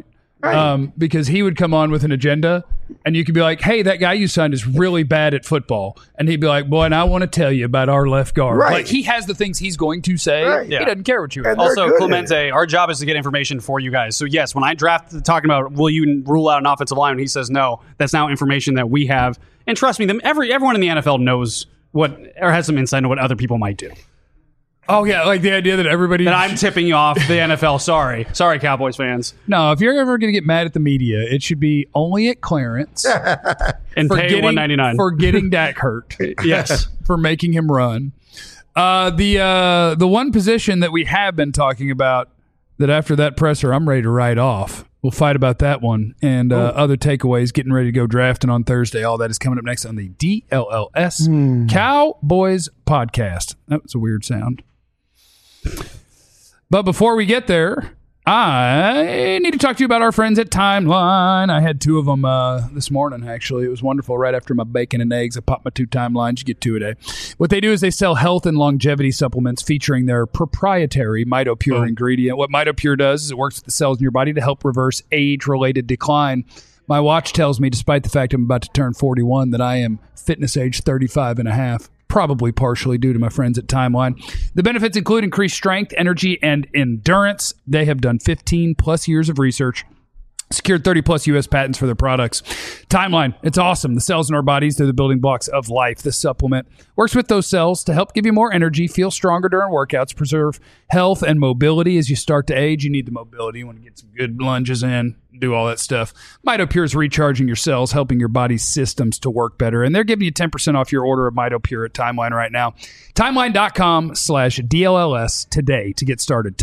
because he would come on with an agenda, and you could be like, "Hey, that guy you signed is really bad at football," and he'd be like, "Boy, and I want to tell you about our left guard." Right. Like he has the things he's going to say. Right. He Yeah. doesn't care what you. And they're Also, good at Clemente, our job is to get information for you guys. So yes, when I draft talking about will you rule out an offensive line, and he says no, that's now information that we have. And trust me, everyone in the NFL knows what or has some insight into what other people might do. Oh yeah, like the idea that everybody That I'm tipping you off the NFL. Sorry, Cowboys fans, No, if you're ever going to get mad at the media, it should be only at Clarence and for pay getting $199 for getting Dak hurt. Yes. For making him run. The one position that we have been talking about that after that presser I'm ready to write off. We'll fight about that one and other takeaways. Getting ready to go drafting on Thursday. All that is coming up next on the DLLS Cowboys podcast. That was a weird sound. But before we get there, I need to talk to you about our friends at Timeline. I had 2 of them this morning, actually. It was wonderful. Right after my bacon and eggs, I popped my 2 Timelines. You get 2 a day. What they do is they sell health and longevity supplements featuring their proprietary MitoPure ingredient. What MitoPure does is it works with the cells in your body to help reverse age-related decline. My watch tells me, despite the fact I'm about to turn 41, that I am fitness age 35 and a half. Probably partially due to my friends at Timeline. The benefits include increased strength, energy, and endurance. They have done 15 plus years of research, secured 30 plus U.S. patents for their products. Timeline, it's awesome. The cells in our bodies, they're the building blocks of life. This supplement works with those cells to help give you more energy, feel stronger during workouts, preserve health and mobility as you start to age. You need the mobility. You want to get some good lunges in, do all that stuff. MitoPure is recharging your cells, helping your body's systems to work better. And they're giving you 10% off your order of MitoPure at Timeline right now. Timeline.com/DLLS today to get started.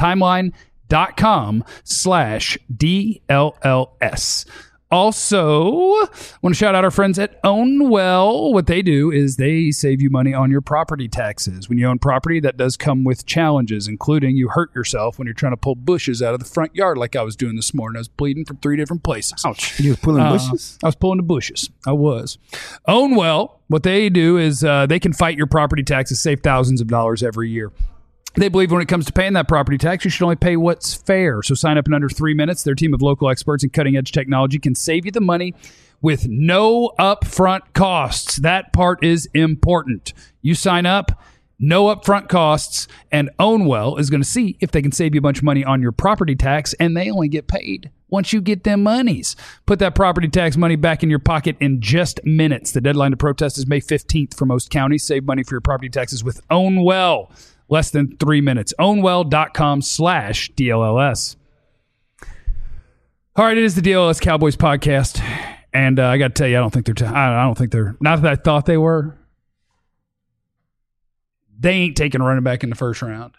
Timeline.com/DLLS. Also, want to shout out our friends at Ownwell. What they do is they save you money on your property taxes. When you own property, that does come with challenges, including you hurt yourself when you're trying to pull bushes out of the front yard like I was doing this morning. I was bleeding from 3 different places. Ouch. You was pulling bushes? I was pulling the bushes. I was. Ownwell, what they do is they can fight your property taxes, save thousands of dollars every year. They believe when it comes to paying that property tax, you should only pay what's fair. So sign up in under 3 minutes. Their team of local experts and cutting-edge technology can save you the money with no upfront costs. That part is important. You sign up, no upfront costs, and Ownwell is going to see if they can save you a bunch of money on your property tax, and they only get paid once you get them monies. Put that property tax money back in your pocket in just minutes. The deadline to protest is May 15th for most counties. Save money for your property taxes with Ownwell. Less than 3 minutes. Ownwell.com/DLLS. All right, it is the DLLS Cowboys podcast, and I got to tell you, I don't think they're. I don't think they're. Not that I thought they were. They ain't taking a running back in the first round.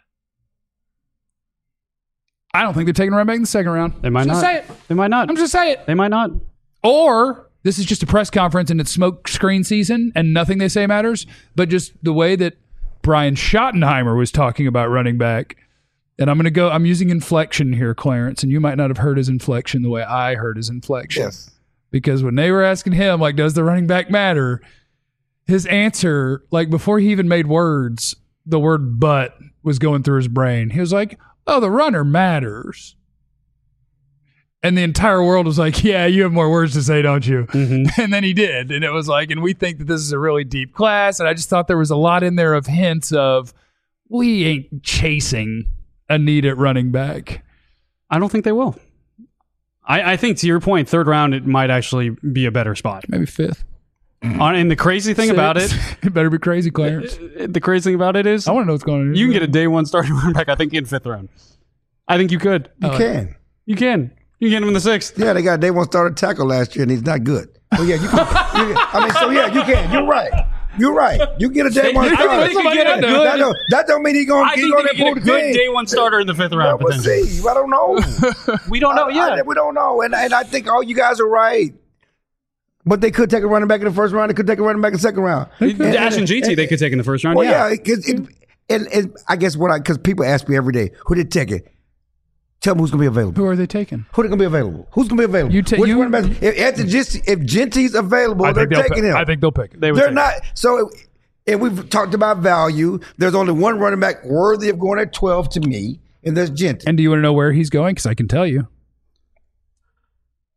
I don't think they're taking a running back in the second round. They might I'm not. just say it. They might not. I'm just saying it. They might not. Or this is just a press conference and it's smoke screen season, and nothing they say matters. But just the way that Brian Schottenheimer was talking about running back. And I'm using inflection here, Clarence, and you might not have heard his inflection the way I heard his inflection. Yes. Because when they were asking him, like, does the running back matter? His answer, like, before he even made words, the word but was going through his brain. He was like, oh, the runner matters. And the entire world was like, yeah, you have more words to say, don't you? Mm-hmm. And then he did. And it was like, and we think that this is a really deep class. And I just thought there was a lot in there of hints of, we ain't chasing a need at running back. I don't think they will. I think, to your point, third round, it might actually be a better spot. Maybe fifth. And the crazy thing about it, It better be crazy, Clarence. the crazy thing about it is, I want to know what's going on. you can get a day one starting running back, I think, in fifth round. I think you could. You can. You can. You can get him in the sixth. Yeah, they got day one starter tackle last year, and he's not good. Well, yeah, you can. You can. You're right. You're right. You get a day one I starter. think they could get a good. That don't mean he's going I to think they could get a improve the good team. day one starter in the fifth round. We'll potentially. see. I don't know. We don't know. Yeah. We don't know. And I think all you guys are right. But they could take a running back in the first round. They could take a running back in the second round. Dash and GT, they could take in the first round. Well, yeah. and I guess because people ask me every day, who did take it? Tell me who's going to be available. Who are they taking? Who's going to be available? Who's going to be available? Which running back? If Genty's available, they're taking him. I think they'll pick him. They're not. So if we've talked about value, there's only one running back worthy of going at 12 to me, and there's Genty. And do you want to know where he's going? Because I can tell you.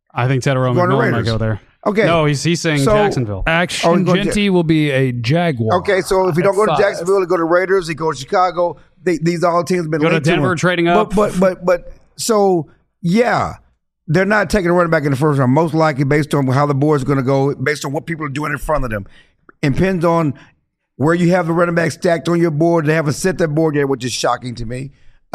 I think Tedero Going to McMillan might Raiders. go there. Okay. No, he's saying So- Jacksonville. Action going Genty will be a Jaguar. Okay, so if he don't go to At 5. Jacksonville, he go to Raiders, he go to Chicago. These all teams have been Go to linked Denver, him. trading up. But so yeah, they're not taking a running back in the first round. Most likely based on how the board is going to go, based on what people are doing in front of them. It depends on where you have the running back stacked on your board. They haven't set that board yet, which is shocking to me.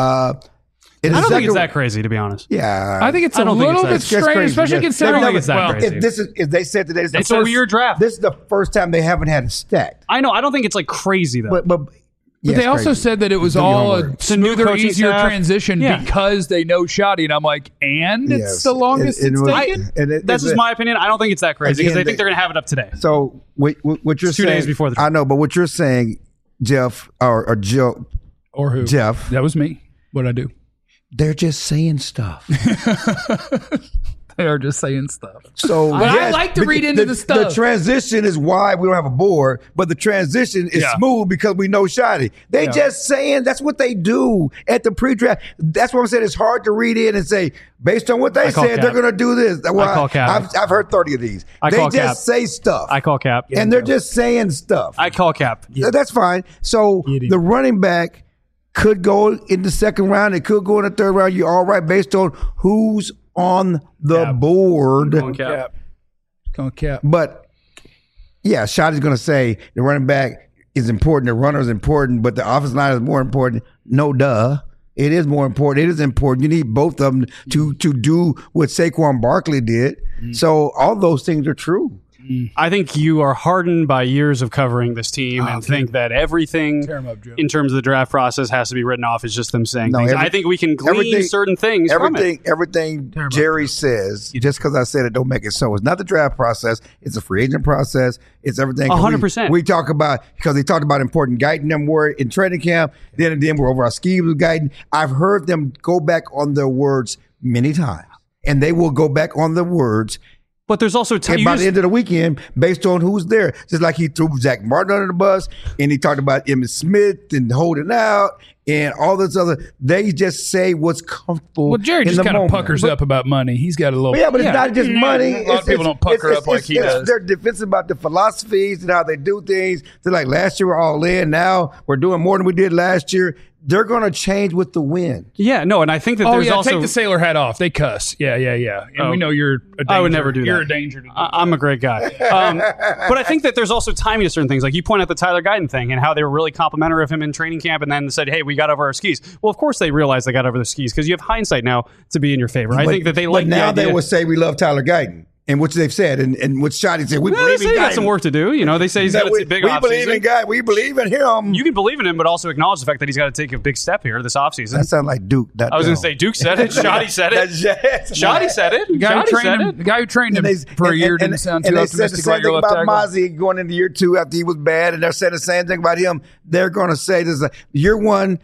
I don't think it's that crazy, to be honest. Yeah, I think it's I a don't think little it's bit that- strange, crazy. especially Yes. considering They've I don't think never- it's that well, crazy. if they said today, It's a weird draft. This is the first time they haven't had it stacked. I know. I don't think it's like crazy though. But But they also said that it was Do your all a homework. smoother, coaching easier staff. transition Yeah. because they know Shoddy. And I'm like, and it's Yes. the longest And- it's and- taken? That's just my opinion. I don't think it's that crazy because Again, they think they're going to have it up today. So what you're It's 2 saying? days before the I know, but what you're saying, Jeff or Joe, Or who? Jeff, That was me. What'd I do? they're just saying stuff. They are just saying stuff. So, But I like to read into the stuff. The transition is why we don't have a board, but the transition is Yeah. smooth because we know Shoddy. They just saying that's what they do at the pre-draft. That's what I'm saying. It's hard to read in and say based on what they call said cap. they're going to do this. Well, call cap. I've heard 30 of these. I They call just cap. say stuff, I call cap. and they're just saying stuff. I call cap. That's fine. So the running back could go in the second round. It could go in the third round. You're all right based on who's on the board. Cap. Cap. But yeah, Shotty's going to say the running back is important, the runner is important, but the offensive line is more important. No, duh. It is more important. It is important. You need both of them to do what Saquon Barkley did. So all those things are true. I think you are hardened by years of covering this team and think that everything Tear 'em up, Joe. in terms of the draft process has to be written off as just them saying No, things. every- I think we can glean everything- certain things from it. Everything Jerry says, just because I said it, don't make it so. It's not the draft process. It's a free agent process. It's everything. 100%. We talk about, because they talked about important guiding them word in training camp. Then we're over our schemes with guiding. I've heard them go back on their words many times, and they will go back on the words. But there's also time. And by the end of the weekend, based on who's there, just like he threw Zach Martin under the bus, and he talked about Emmitt Smith and holding out, and all this other. They just say what's comfortable. Well, Jerry in just the kind of moment. puckers up about money. He's got a little. Yeah, but it's not just money. A lot of people don't pucker up like he does. They're defensive about the philosophies and how they do things. They're like, last year we're all in. Now we're doing more than we did last year. They're going to change with the win. Yeah, no, and I think that Oh there's yeah, also. take the sailor hat off. They cuss. Yeah. And we know you're a danger. I would never do that. You're a danger to I'm a great guy. But I think that there's also timing to certain things. Like you point out the Tyler Guyton thing and how they were really complimentary of him in training camp and then said, hey, we got over our skis. Well, of course they realized they got over their skis because you have hindsight now to be in your favor. I think that they like But now the idea. they will say we love Tyler Guyton, and which they've said, and what Shotty said, we Well, they believe say in he Guyton. got some work to do. You know, they say he's got a big we offseason. believe in Guyton. We believe in him. You can believe in him, but also acknowledge the fact that he's got to take a big step here this offseason. That sounds like Duke. I was going to say Duke said it. Shoddy said it. Shoddy said it. The guy who Shoddy trained said him, it. the guy who trained him for a year didn't sound too and they said the optimistic same about your thing left about tackle. Mozzie going into year 2 after he was bad, and they're saying the same thing about him. They're going to say this: year 1,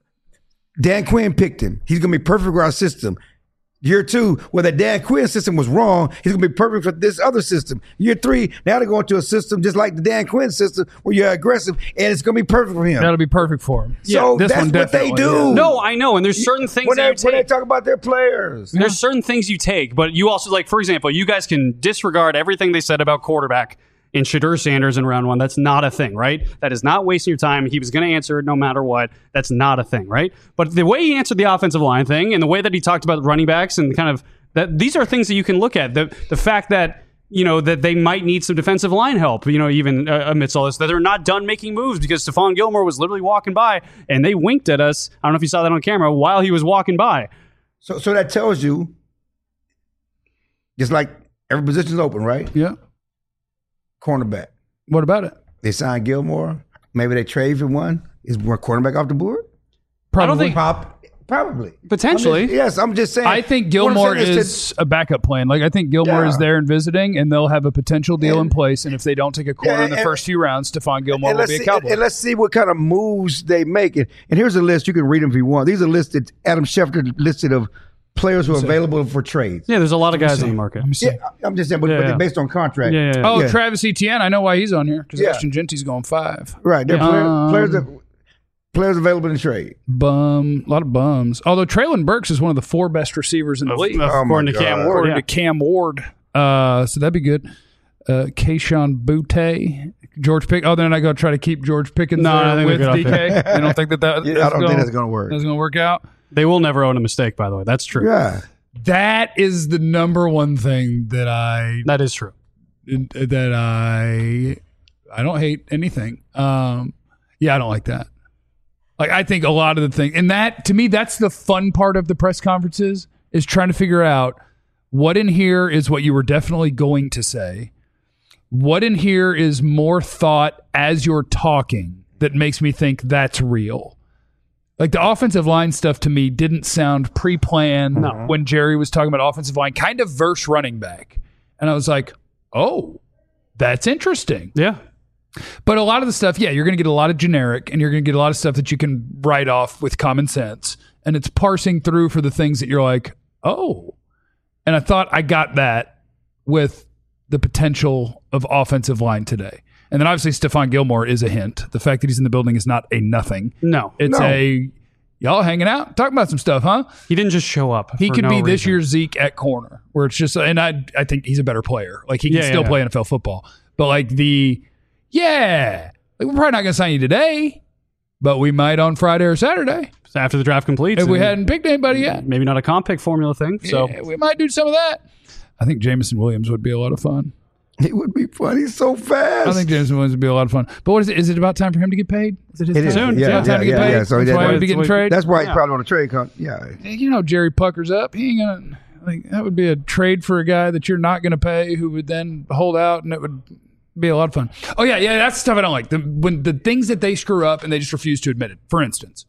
Dan Quinn picked him. He's going to be perfect for our system. Year 2, where the Dan Quinn system was wrong, he's going to be perfect for this other system. Year 3, now they're going to a system just like the Dan Quinn system, where you're aggressive, and it's going to be perfect for him. That'll be perfect for him. So this that's one what they definitely, do. yeah. No, I know. And there's certain things when that you they take. talk about their players. There's certain things you take, but you also, like, for example, you guys can disregard everything they said about quarterback in Shadur Sanders in round 1. That's not a thing, right? That is not wasting your time. He was going to answer it no matter what. That's not a thing, right? But the way he answered the offensive line thing and the way that he talked about running backs and kind of that, these are things that you can look at. The fact that, you know, that they might need some defensive line help, you know, even amidst all this, that they're not done making moves because Stephon Gilmore was literally walking by and they winked at us. I don't know if you saw that on camera while he was walking by. So that tells you, just like every position's open, right? Yeah. Cornerback. What about it? They signed Gilmore. Maybe they trade for one. Is one cornerback off the board? Probably. I don't think Probably. potentially. I'm just saying. I think What I'm Gilmore saying is a backup plan. Like I think Gilmore is there and visiting, and they'll have a potential deal in place. And if they don't take a corner in the first few rounds, Stephon Gilmore will be a Cowboy. And let's see what kind of moves they make. And here's a list. You can read them if you want. These are listed. Adam Schefter listed of players who are available for trades. Yeah, there's a lot of guys on the market. Let me see. Yeah, I'm just saying, but Yeah. they're based on contract. Yeah. Oh, Yeah. Travis Etienne. I know why he's on here because Yeah. Ashton Genty's going 5. Right. They're players that players available in trade. A lot of bums. Although Traylon Burks is one of the 4 best receivers in the league. According to Cam Ward. According to Cam Ward. So that'd be good. Kayshawn Butte. George Pickens. Oh, then I go try to keep George Pickens No, I there think with we're good off DK. I don't think that I don't think that's going to work. That's going to work out. They will never own a mistake, by the way. That's true. Yeah. That is the number one thing that That is true. I don't hate anything. Yeah, I don't like that. Like, I think a lot of the thing, and that to me, that's the fun part of the press conferences, is trying to figure out what in here is what you were definitely going to say. What in here is more thought as you're talking that makes me think that's real? Like, the offensive line stuff to me didn't sound pre-planned when Jerry was talking about offensive line, kind of verse running back. And I was like, oh, that's interesting. Yeah. But a lot of the stuff, yeah, you're going to get a lot of generic, and you're going to get a lot of stuff that you can write off with common sense. And it's parsing through for the things that you're like, oh. And I thought I got that with the potential of offensive line today. And then obviously Stephon Gilmore is a hint. The fact that he's in the building is not a nothing. No. It's y'all hanging out, talking about some stuff, huh? He didn't just show up. He for could no be this reason. year's Zeke at corner, where it's just, and I think he's a better player. Like, he can still play NFL football. But like like, we're probably not going to sign you today, but we might on Friday or Saturday. So after the draft completes. If we hadn't picked anybody yet. Maybe not a comp pick formula thing. So Yeah, we might do some of that. I think Jameson Williams would be a lot of fun. It would be fun. He's so fast. I think Jameson Williams would be a lot of fun. But what is it? Is it about time for him to get paid? Is it his It time? is. Soon. Yeah, Time to get paid? So That's why he would be getting traded? That's why he's probably on a trade con. Yeah. You know, Jerry puckers up. He ain't gonna, like, that would be a trade for a guy that you're not going to pay, who would then hold out, and it would be a lot of fun. Oh yeah, that's the stuff I don't like. When the things that they screw up and they just refuse to admit it. For instance,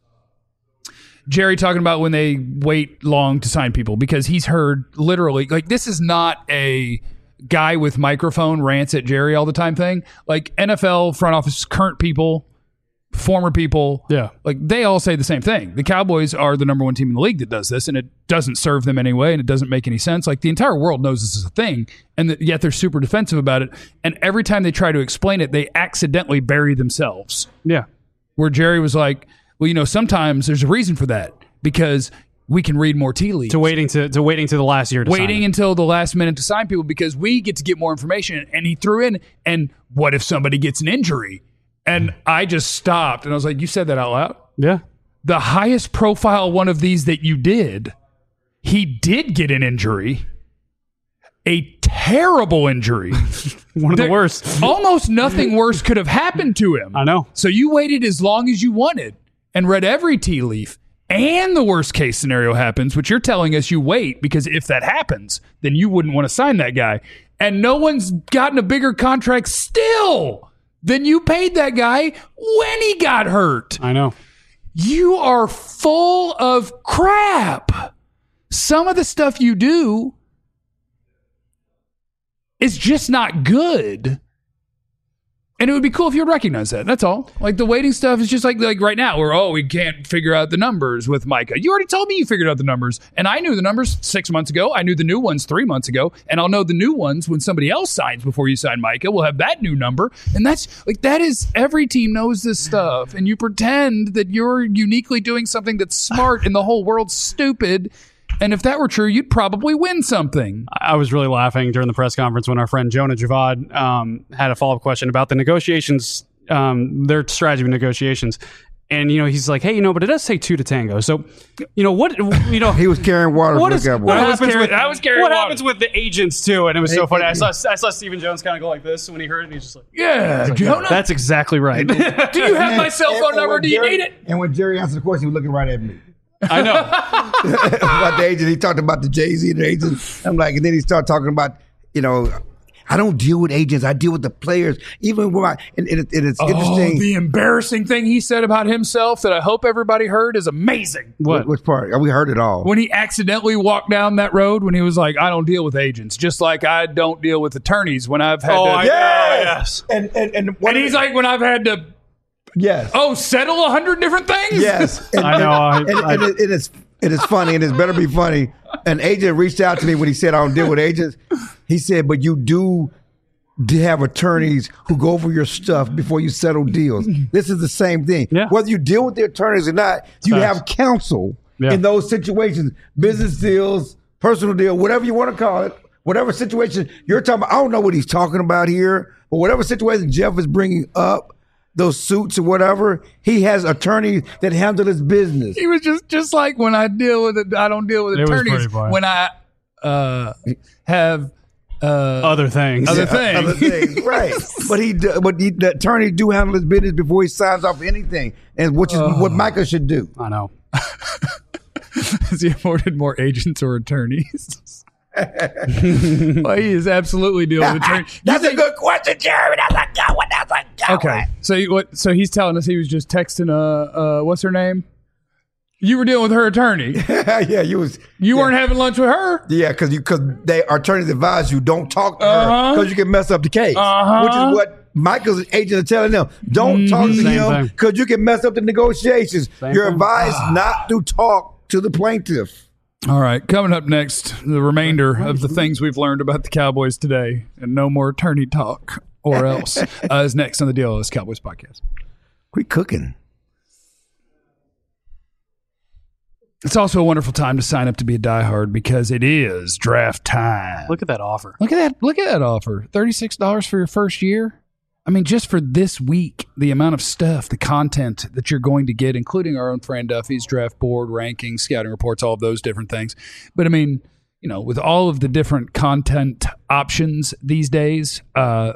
Jerry talking about when they wait long to sign people, because he's heard literally, like, this is not a guy with microphone rants at Jerry all the time thing. Like, NFL front office, current people, former people, like, they all say the same thing. The Cowboys are the number one team in the league that does this, and it doesn't serve them anyway, and it doesn't make any sense. Like, the entire world knows this is a thing, and yet they're super defensive about it. And every time they try to explain it, they accidentally bury themselves. yeah. Where Jerry was like, well, you know, sometimes there's a reason for that, because we can read more tea leaves. To waiting to the last year to sign Waiting him. until the last minute to sign people, because we get to get more information. And he threw in, and what if somebody gets an injury? And I just stopped, and I was like, you said that out loud? Yeah. The highest profile one of these that you did, he did get an injury. A terrible injury. One of the worst. Almost nothing worse could have happened to him. I know. So you waited as long as you wanted and read every tea leaf, and the worst case scenario happens, which you're telling us you wait, because if that happens, then you wouldn't want to sign that guy. And no one's gotten a bigger contract still than you paid that guy when he got hurt. I know. You are full of crap. Some of the stuff you do is just not good. And it would be cool if you would recognize that. That's all. Like, the waiting stuff is just like right now, where, we can't figure out the numbers with Micah. You already told me you figured out the numbers. And I knew the numbers 6 months ago. I knew the new ones 3 months ago. And I'll know the new ones when somebody else signs before you sign Micah. We'll have that new number. And that's like, that is, every team knows this stuff. And you pretend that you're uniquely doing something that's smart and the whole world's stupid. And if that were true, you'd probably win something. I was really laughing during the press conference when our friend Jonah Javad had a follow-up question about the negotiations, their strategy of negotiations. And, you know, he's like, hey, you know, but it does say 2 to tango. So, you know, what, you know. He was carrying water What for is- the Cowboys. what I was happens carrying- with- I was carrying What water. happens with the agents, too? And it was so funny. I saw Stephen Jones kind of go like this when he heard it, and he's just like, Yeah, Jonah. that's exactly right. Do you have my cell phone number? when Do you Jerry- need it? And when Jerry answered the question, he was looking right at me. I know. About the agent. He talked about the Jay-Z and the agents. I'm like, and then he started talking about, you know, I don't deal with agents. I deal with the players. Even when and it's interesting. The embarrassing thing he said about himself that I hope everybody heard is amazing. What? Which part? We heard it all. When he accidentally walked down that road, when he was like, I don't deal with agents, just like I don't deal with attorneys when I've had to. Yes. And And he's like, when I've had to, yes. settle 100 different things? Yes. And, I know. and it is funny, and it's better be funny. An agent reached out to me when he said I don't deal with agents. He said, but you do to have attorneys who go over your stuff before you settle deals. This is the same thing. Yeah. Whether you deal with the attorneys or not, you Facts. have counsel Yeah. in those situations, business deals, personal deal, whatever you want to call it, whatever situation you're talking about. I don't know what he's talking about here, but whatever situation Jeff is bringing up, those suits or whatever, he has attorneys that handle his business. He was just like when I deal with it. I don't deal with It was attorneys. pretty funny. When I have Other things. Other things. Other things, right? But the attorney do handle his business before he signs off anything, and which is what Micah should do. I know. has he afforded more agents or attorneys? Well, he is absolutely dealing with attorneys. That's a good question, Jeremy. That's a good one. That's a good Okay, one. so so he's telling us he was just texting what's her name? You were dealing with her attorney. Yeah, You weren't having lunch with her. Yeah, because they attorneys advise you don't talk to her Uh-huh. because you can mess up the case. Uh-huh. Which is what Michael's agent is telling them. Don't talk to Same him thing. because you can mess up the negotiations. You're thing. advised not to talk to the plaintiff. All right, coming up next, the remainder of the things we've learned about the Cowboys today, and no more attorney talk or else is next on the DLS Cowboys podcast. Quit cooking. It's also a wonderful time to sign up to be a diehard because it is draft time. Look at that offer. Look at that! Look at that offer. $36 for your first year. I mean, just for this week, the amount of stuff, the content that you're going to get, including our own Fran Duffy's draft board, rankings, scouting reports, all of those different things. But I mean, you know, with all of the different content options these days,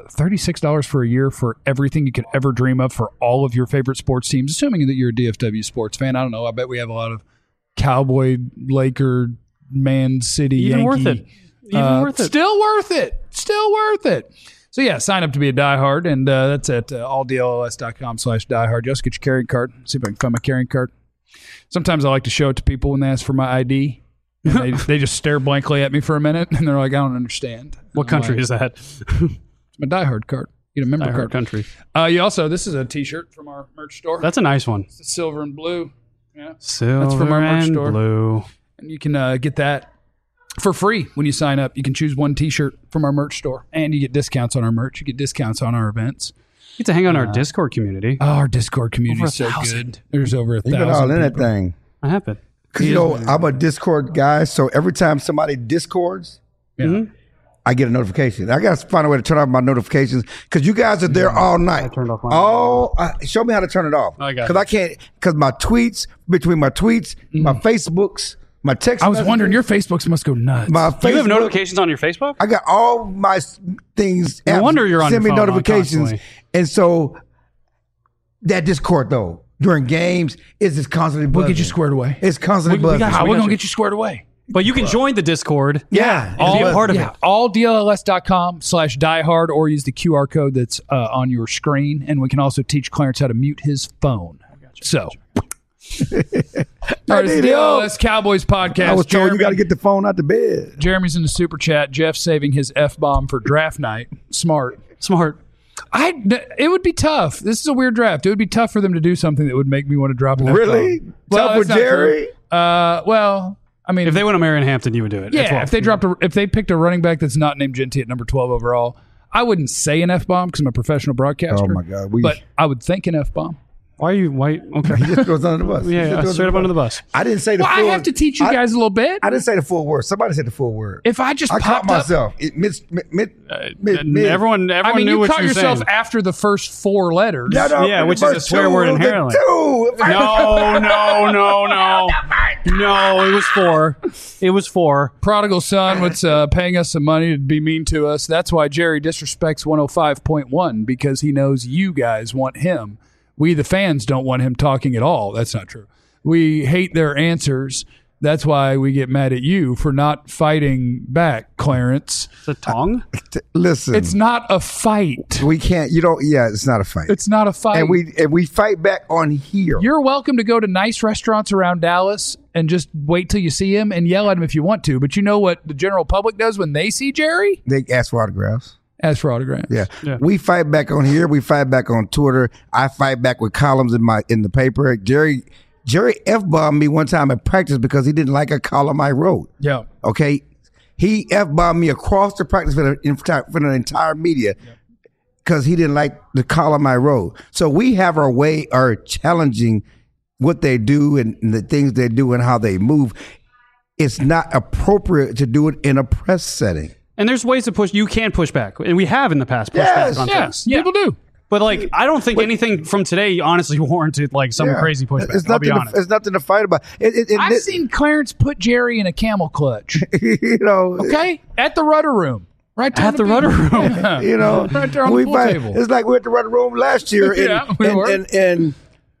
$36 for a year for everything you could ever dream of for all of your favorite sports teams, assuming that you're a DFW sports fan. I don't know. I bet we have a lot of Cowboy, Laker, Man City, Even Yankee. worth it. Even worth it. Still worth it. Still worth it. So yeah, sign up to be a diehard, and that's at alldlls.com/diehard. Just get your carrying card. See if I can find my carrying card. Sometimes I like to show it to people when they ask for my ID. And they just stare blankly at me for a minute, and they're like, "I don't understand." What country is that? It's my diehard card. You get a member I card. heard country. You also, this is a T-shirt from our merch store. That's a nice one. It's silver and blue. Yeah, Silver from our merch and store. blue. and you can get that for free when you sign up. You can choose one T-shirt from our merch store, and you get discounts on our merch. You get discounts on our events. You get to hang out in our Discord community. Oh, our Discord community is Over so 1,000. good. There's over You've been 1,000 all in that people. thing. I have it. Because, you know, I'm a Discord guy, so every time somebody Discords, Yeah. I get a notification. I got to find a way to turn off my notifications because you guys are there all night. I turned off mine. Show me how to turn it off. I got Because I can't, because my tweets, between my tweets, my Facebooks, my text I was messages, wondering, your Facebooks must go nuts. my Do you have Facebook- notifications on your Facebook? I got all my things. No apps wonder you're on send me your phone notifications, constantly. and so that Discord though during games is just constantly. We'll get buzzing. you squared away. It's constantly We buzzing. got you. How we we're got going to you. get you squared away. But you can join the Discord. Yeah, And be a part of Yeah, it. alldls.com/diehard or use the QR code that's on your screen. And we can also teach Clarence how to mute his phone. So, all right, it's the need help. DLS Cowboys podcast. I was told you Jeremy- got to get the phone out the bed. Jeremy's in the super chat. Jeff saving his F-bomb for draft night. Smart. Smart. It would be tough. This is a weird draft. It would be tough for them to do something that would make me want to drop an Really? F-bomb. Tough that's with not Jerry? true. Well, I mean, If they went to Marion Hampton, you would do it. yeah, At 12. if they picked a running back that's not named Genty at number 12 overall, I wouldn't say an F-bomb because I'm a professional broadcaster. Oh my God, but I would think an F-bomb. Why are you white? Okay. He just goes under the bus. He Yeah, just goes straight up under the bus. I didn't say the Well, I full. have to teach you guys a little bit. I didn't say the full word. Somebody said the full word. If I just I caught popped up, myself. Everyone I mean, knew you what caught you were yourself saying. after the first four letters. Yeah, which is a swear word inherently. No, it was 4. It was 4. Prodigal son was paying us some money to be mean to us. That's why Jerry disrespects 105.1 because he knows you guys want him. We, the fans, don't want him talking at all. That's not true. We hate their answers. That's why we get mad at you for not fighting back, Clarence. The tongue? Listen, It's not a fight. we can't. You don't. Yeah, it's not a fight. It's not a fight. and we fight back on here. You're welcome to go to nice restaurants around Dallas and just wait till you see him and yell at him if you want to. But you know what the general public does when they see Jerry? They ask for autographs. Ask for autographs. Yeah. Yeah. We fight back on here. We fight back on Twitter. I fight back with columns in the paper. Jerry F-bombed me one time at practice because he didn't like a column I wrote. Yeah. Okay. He F-bombed me across the practice for the entire media because he didn't like the column I wrote. So we have our way of challenging what they do and the things they do and how they move. It's not appropriate to do it in a press setting. And there's ways to push. You can push back, and we have in the past pushed back on things. Yes, people do. But like, I don't think anything from today honestly warranted like some crazy pushback. I'll be honest. It's nothing to fight about. I've seen Clarence put Jerry in a camel clutch. You know, Okay, at the rudder room, right there At the rudder room. you know, right there on the pool table. It's like we were at the rudder room last year, and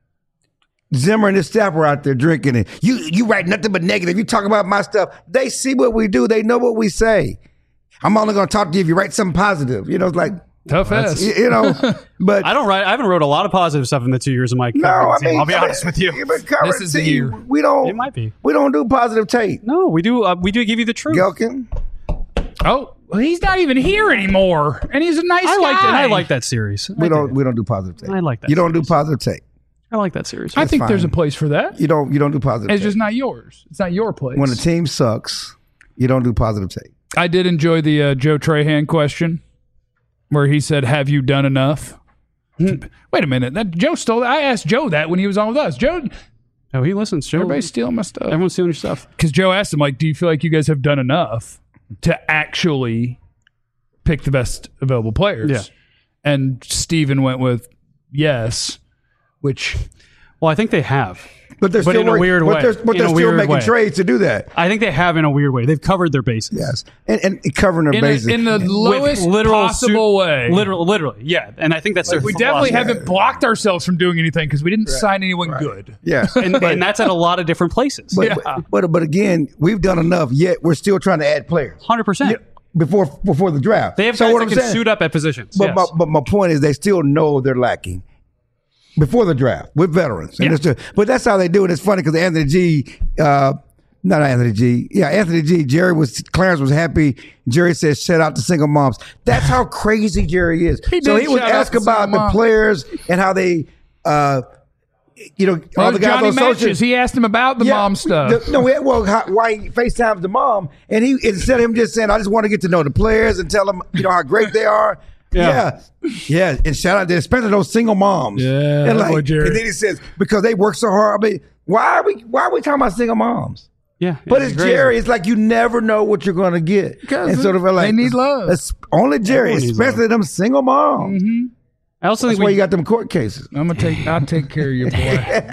Zimmer and his staff were out there drinking, and you write nothing but negative. You talk about my stuff. They see what we do. They know what we say. I'm only going to talk to you if you write something positive. You know, it's like. Tough ass. You know, but I haven't wrote a lot of positive stuff in the 2 years of my covering team. I'll be honest with you. This is the year. We don't. It might be. We don't do positive tape. No, we do. We do give you the truth. Gelkin. Oh, well, he's not even here anymore, and he's a nice guy. I like that series. We don't do positive tape. I like that You don't do series. positive tape. I like that series. I think fine. there's a place for that. You don't do positive It's tape. just not yours. It's not your place. When the team sucks, you don't do positive tape. I did enjoy the Joe Trahan question, where he said, "Have you done enough?" Wait a minute, that Joe stole that. I asked Joe that when he was on with us. Joe, Oh, he listens. Joe. everybody's stealing my stuff. Everyone's stealing your stuff. Because Joe asked him, like, "Do you feel like you guys have done enough to actually pick the best available players?" Yeah. And Steven went with yes, which Well, I think they have. But they're still in a weird way. But In they're a still weird making way. trades to do that. I think they have in a weird way. They've covered their bases. Yes, and covering their bases. in the lowest possible way. Literally, yeah. And I think that's their We definitely philosophy. haven't blocked ourselves from doing anything because we didn't sign anyone good. yeah, And that's at a lot of different places. but again, we've done enough. Yet we're still trying to add players 100%. before the draft. They have so guys what that I'm can saying, suit up at positions. But, yes. my point is, they still know they're lacking before the draft with veterans. And but that's how they do it. It's funny because Anthony G. Anthony G. Clarence was happy. Jerry said, "Shout out to single moms." That's how crazy Jerry is. He So did he was shout out asked to about single the moms. players and how they, all the guys Johnny on social. Matches, he asked him about the mom stuff. Why he FaceTimes the mom, and he instead of him just saying, "I just want to get to know the players and tell them, how great they are." Yeah. And shout out to especially those single moms. Yeah, and, boy, Jerry. and then he says because they work so hard. I mean, why are we talking about single moms? Yeah. But it's crazy. Jerry. It's like you never know what you're going to get. Because and sort of like they need love. It's only Jerry, Everyone needs especially them single moms. I also That's think why you got them court cases. I'll take care of you, boy.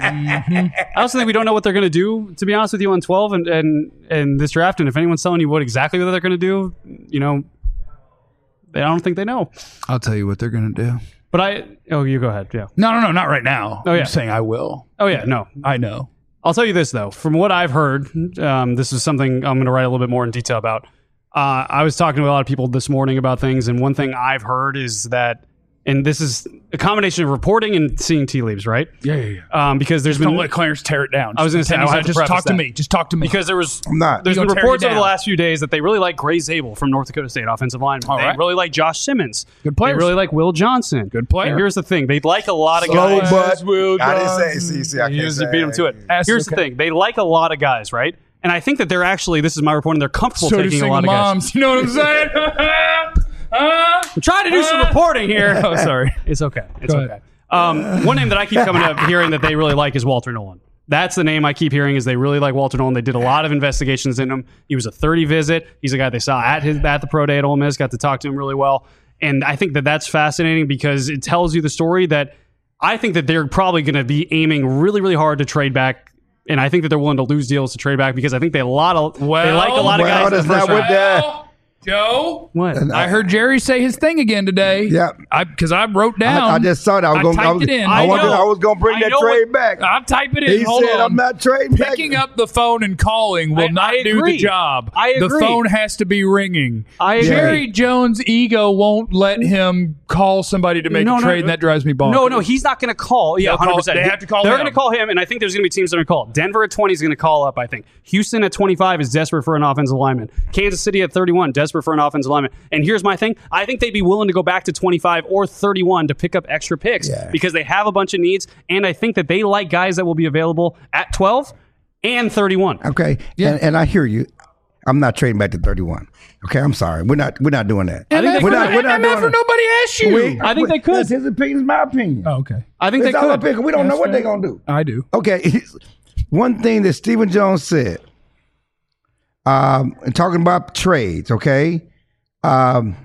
I also think we don't know what they're going to do, to be honest with you, on 12 and this draft. And if anyone's telling you what they're going to do, I don't think they know. I'll tell you what they're going to do. But you go ahead. Yeah. No, not right now. Oh, yeah. I'm saying I will. Oh, yeah. No. I know. I'll tell you this, though. From what I've heard, this is something I'm going to write a little bit more in detail about. I was talking to a lot of people this morning about things, and one thing I've heard is that, and this is a combination of reporting and seeing tea leaves, right? Yeah. Because there's been... Don't let Clarence tear it down. I was going to say, I have to just preface talk to that. me. Just talk to me. Because there's I'm not. been gonna tear reports you over the down. last few days that they really like Gray Zabel from North Dakota State, offensive lineman. All They right. really like Josh Simmons. Good players. They really like Will Johnson. Good player. And here's the thing. They like a lot of Slow guys. but Will I didn't Johnson. say. See, I You can't just say. beat them to it. That's Here's the okay. thing. They like a lot of guys, right? And I think that they're actually, this is my reporting, they're comfortable So do taking a single lot of guys. moms. You know what I'm saying? I'm trying to do some reporting here. Oh, sorry. It's okay. It's Go okay. One name that I keep coming up hearing that they really like is Walter Nolan. That's the name I keep hearing is they really like Walter Nolan. They did a lot of investigations in him. He was a 30 visit. He's a guy they saw at the pro day at Ole Miss, got to talk to him really well. And I think that that's fascinating because it tells you the story that I think that they're probably going to be aiming really, really hard to trade back. And I think that they're willing to lose deals to trade back because I think they like a lot of guys in the that's first not what round. that. Joe, What? I heard Jerry say his thing again today. Yeah. Because I wrote down. I just saw that. I typed it in. I was going to bring I that know trade back. I'll type it in. He Hold said, on. "I'm not trading back." Picking up the phone and calling will I not do the agree. job. I The agree. phone has to be ringing. I agree. Jerry Jones' ego won't let him call somebody to make a trade, and that drives me bonkers. No, he's not going to call. Yeah, They'll call- 100%. they have to call They're him. going to call him, and I think there's going to be teams that are going to call. Denver at 20 is going to call up, I think. Houston at 25 is desperate for an offensive lineman. Kansas City at 31, desperate for an offensive lineman. And here's my thing. I think they'd be willing to go back to 25 or 31 to pick up extra picks because they have a bunch of needs, and I think that they like guys that will be available at 12 and 31. Okay, and I hear you. I'm not trading back to 31. Okay, I'm sorry. We're not doing that. I think they we're could. not doing MF, nobody asked you. I think they could. That's his opinion. It's my opinion. Oh, okay. I think It's they our could. opinion. We don't know what fair. they're gonna do. I do. Okay, one thing that Stephen Jones said, and talking about trades, okay, and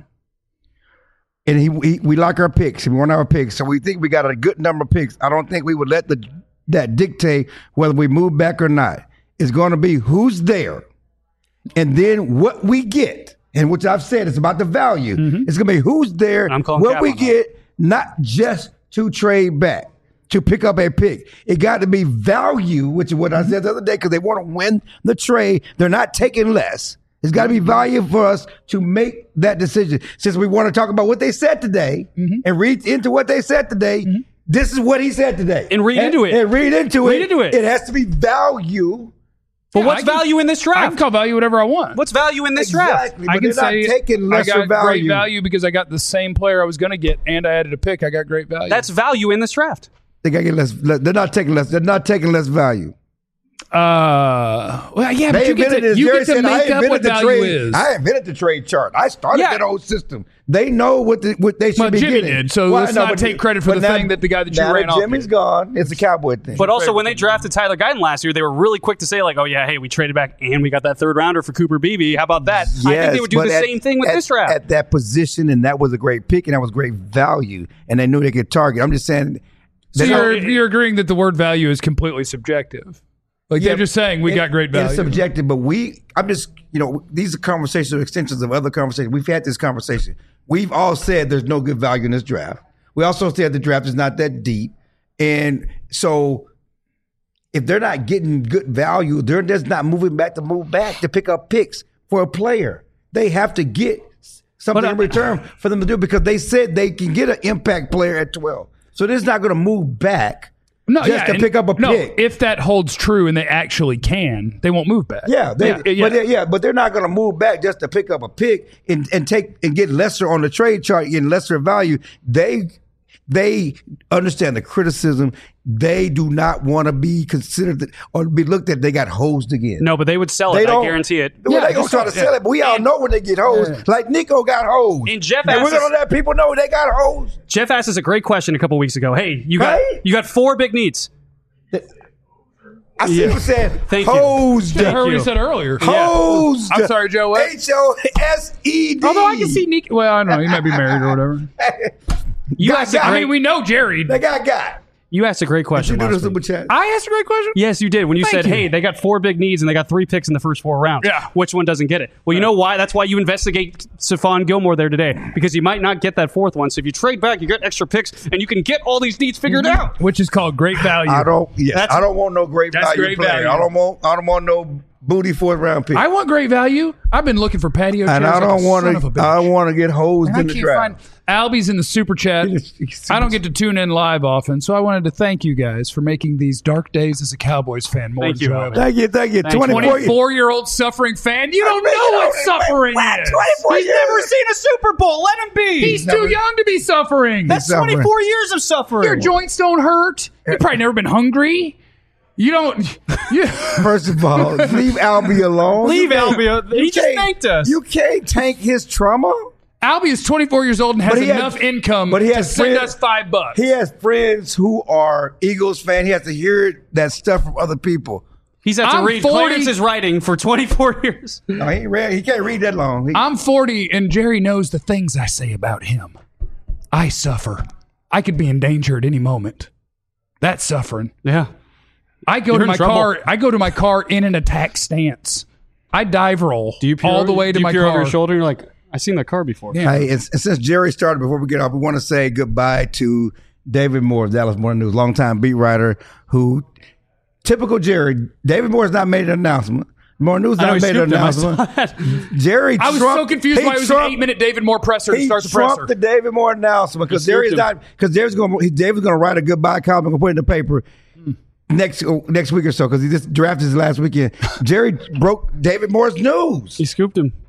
we like our picks, and we want our picks, so we think we got a good number of picks. I don't think we would let that dictate whether we move back or not. It's going to be who's there, and then what we get, and which I've said, it's about the value. It's going to be who's there, I'm calling what cap we on that. get, not just to trade back. To pick up a pick. It got to be value, which is what I said the other day, because they want to win the trade. They're not taking less. It's got to be value for us to make that decision. Since we want to talk about what they said today and read into what they said today, this is what he said today. And read into it. And read into it. Read into it. It has to be value. But Yeah, what's I can- value in this I can draft? call value whatever I want. What's value in this draft? Exactly. I But can they're not say taking lesser I got value. great value because I got the same player I was going to get, and I added a pick. I got great value. That's value in this draft. They got to get less. They're not taking less. They're not taking less value. well, yeah, but They you get invented to, this. you Jerry get to said, I make up invented what the value trade. is. I invented the trade chart. I started Yeah. that whole system. They know what they should Well, be Jimmy getting. did, so let's not take credit for but the now- thing that the guy that you now ran that off Jimmy's did. gone. It's a Cowboy thing. But also, when they drafted Tyler Guyton last year, they were really quick to say, like, oh, yeah, hey, we traded back and we got that third rounder for Cooper Beebe. How about that? I think they would do but the same thing with at, this draft. at that position, and that was a great pick, and that was great value, and they knew they could target. I'm just saying. So they're you're agreeing that the word value is completely subjective. Like they're just saying we got great value. It's subjective, but I'm just, these are conversations or extensions of other conversations. We've had this conversation. We've all said there's no good value in this draft. We also said the draft is not that deep. And so if they're not getting good value, they're just not moving back to pick up picks for a player. They have to get something in return for them to do because they said they can get an impact player at 12. So they're just not going to move back. No, just to and- pick up a no, pick. if that holds true and they actually can, they won't move back. Yeah, yeah. but they're not going to move back just to pick up a pick and get lesser on the trade chart, getting lesser value. They understand the criticism. They do not want to be considered or be looked at. They got hosed again. No, but they would sell They it. I don't- guarantee it. Well, Yeah, they gonna just try to sell- sell it, but we all know when they get hosed. Like Nico got hosed, And Jeff and we're asked us- gonna let people know they got hosed. Jeff asked us a great question a couple weeks ago. Hey, you Right? got 4 big needs. I see you said Thank you. hosed. I heard what you. he said earlier. Hosed. I'm sorry, Joe, what? HOSED. Although I can see Nick. Well, I don't know. He might be married or whatever. You Got asked a got. I great, mean, we know Jerry. They got. you asked a great You question do the last super week. chat. I asked a great question. Yes, you did. When you Thank said, you. hey, they got 4 big needs and they got 3 picks in the first 4 rounds. Yeah. Which one doesn't get it? Well, you know why? That's why you investigate Stephon Gilmore there today. Because you might not get that 4th one. So if you trade back, you get extra picks and you can get all these needs figured out. Which is called great value. I don't want no great That's value great player. value. I don't want no booty 4th round pick. I want great value. I've been looking for patio chairs. and I like don't a want son of a to. bitch. I want to get hosed And I in the can't draft. find Albie's in the super chat. I don't get to tune in live often, so I wanted to thank you guys for making these dark days as a Cowboys fan more Thank you, enjoyable. Thank you. Thank you. 24-year-old suffering fan. You don't know what suffering is. 24 He's years. never seen a Super Bowl. Let him be. He's too young to be suffering. That's suffering. 24 years of suffering. Your joints don't hurt. You've probably never been hungry. You don't. You, First of all, leave Albie alone. Leave You can't- Albie. you He just can't- thanked us. You can't tank his trauma. Albie is 24 years old and has But he has- enough income but he to has send friends- us $5. He has friends who are Eagles fans. He has to hear that stuff from other people. He's had to I'm read 40. Clarence's writing for 24 years. No, he ain't read. He can't read that long. I'm 40, and Jerry knows the things I say about him. I suffer. I could be in danger at any moment. That's suffering. Yeah. I go You're to in my trouble. car. I go to my car in an attack stance. I dive roll all the way to my peer car. over your shoulder? You're like, I've seen that car before. Yeah. Hey, and since Jerry started, before we get off, we want to say goodbye to David Moore of Dallas Morning News, longtime beat writer who, typical Jerry, David Moore has not made an announcement. Morning News I know not he made an scooped him. I saw announcement. Jerry I was trumped- so confused he why it was an trumped- 8-minute David Moore presser to He start the trumped presser. the David Moore announcement because He Jerry's scooped him. not because David's going to write a goodbye column and put it in the paper next week or so because he just drafted his last weekend. Jerry broke David Moore's news. He scooped him.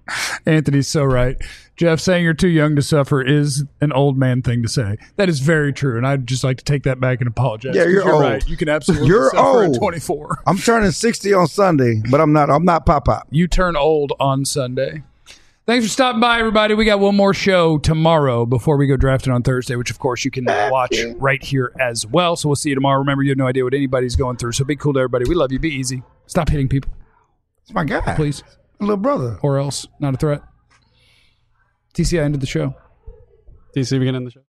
Anthony's so right. Jeff, saying you're too young to suffer is an old man thing to say. That is very true, and I'd just like to take that back and apologize. Yeah, 'cause you're old. right. You can absolutely You're suffer old. at 24. I'm turning 60 on Sunday, but I'm not Pop. You turn old on Sunday. Thanks for stopping by, everybody. We got one more show tomorrow before we go drafting on Thursday, which, of course, you can watch right here as well. So we'll see you tomorrow. Remember, you have no idea what anybody's going through, so be cool to everybody. We love you. Be easy. Stop hitting people, It's my guy. please, My little brother. or else. Not a threat. TCI ended the show. DC, we can end the show.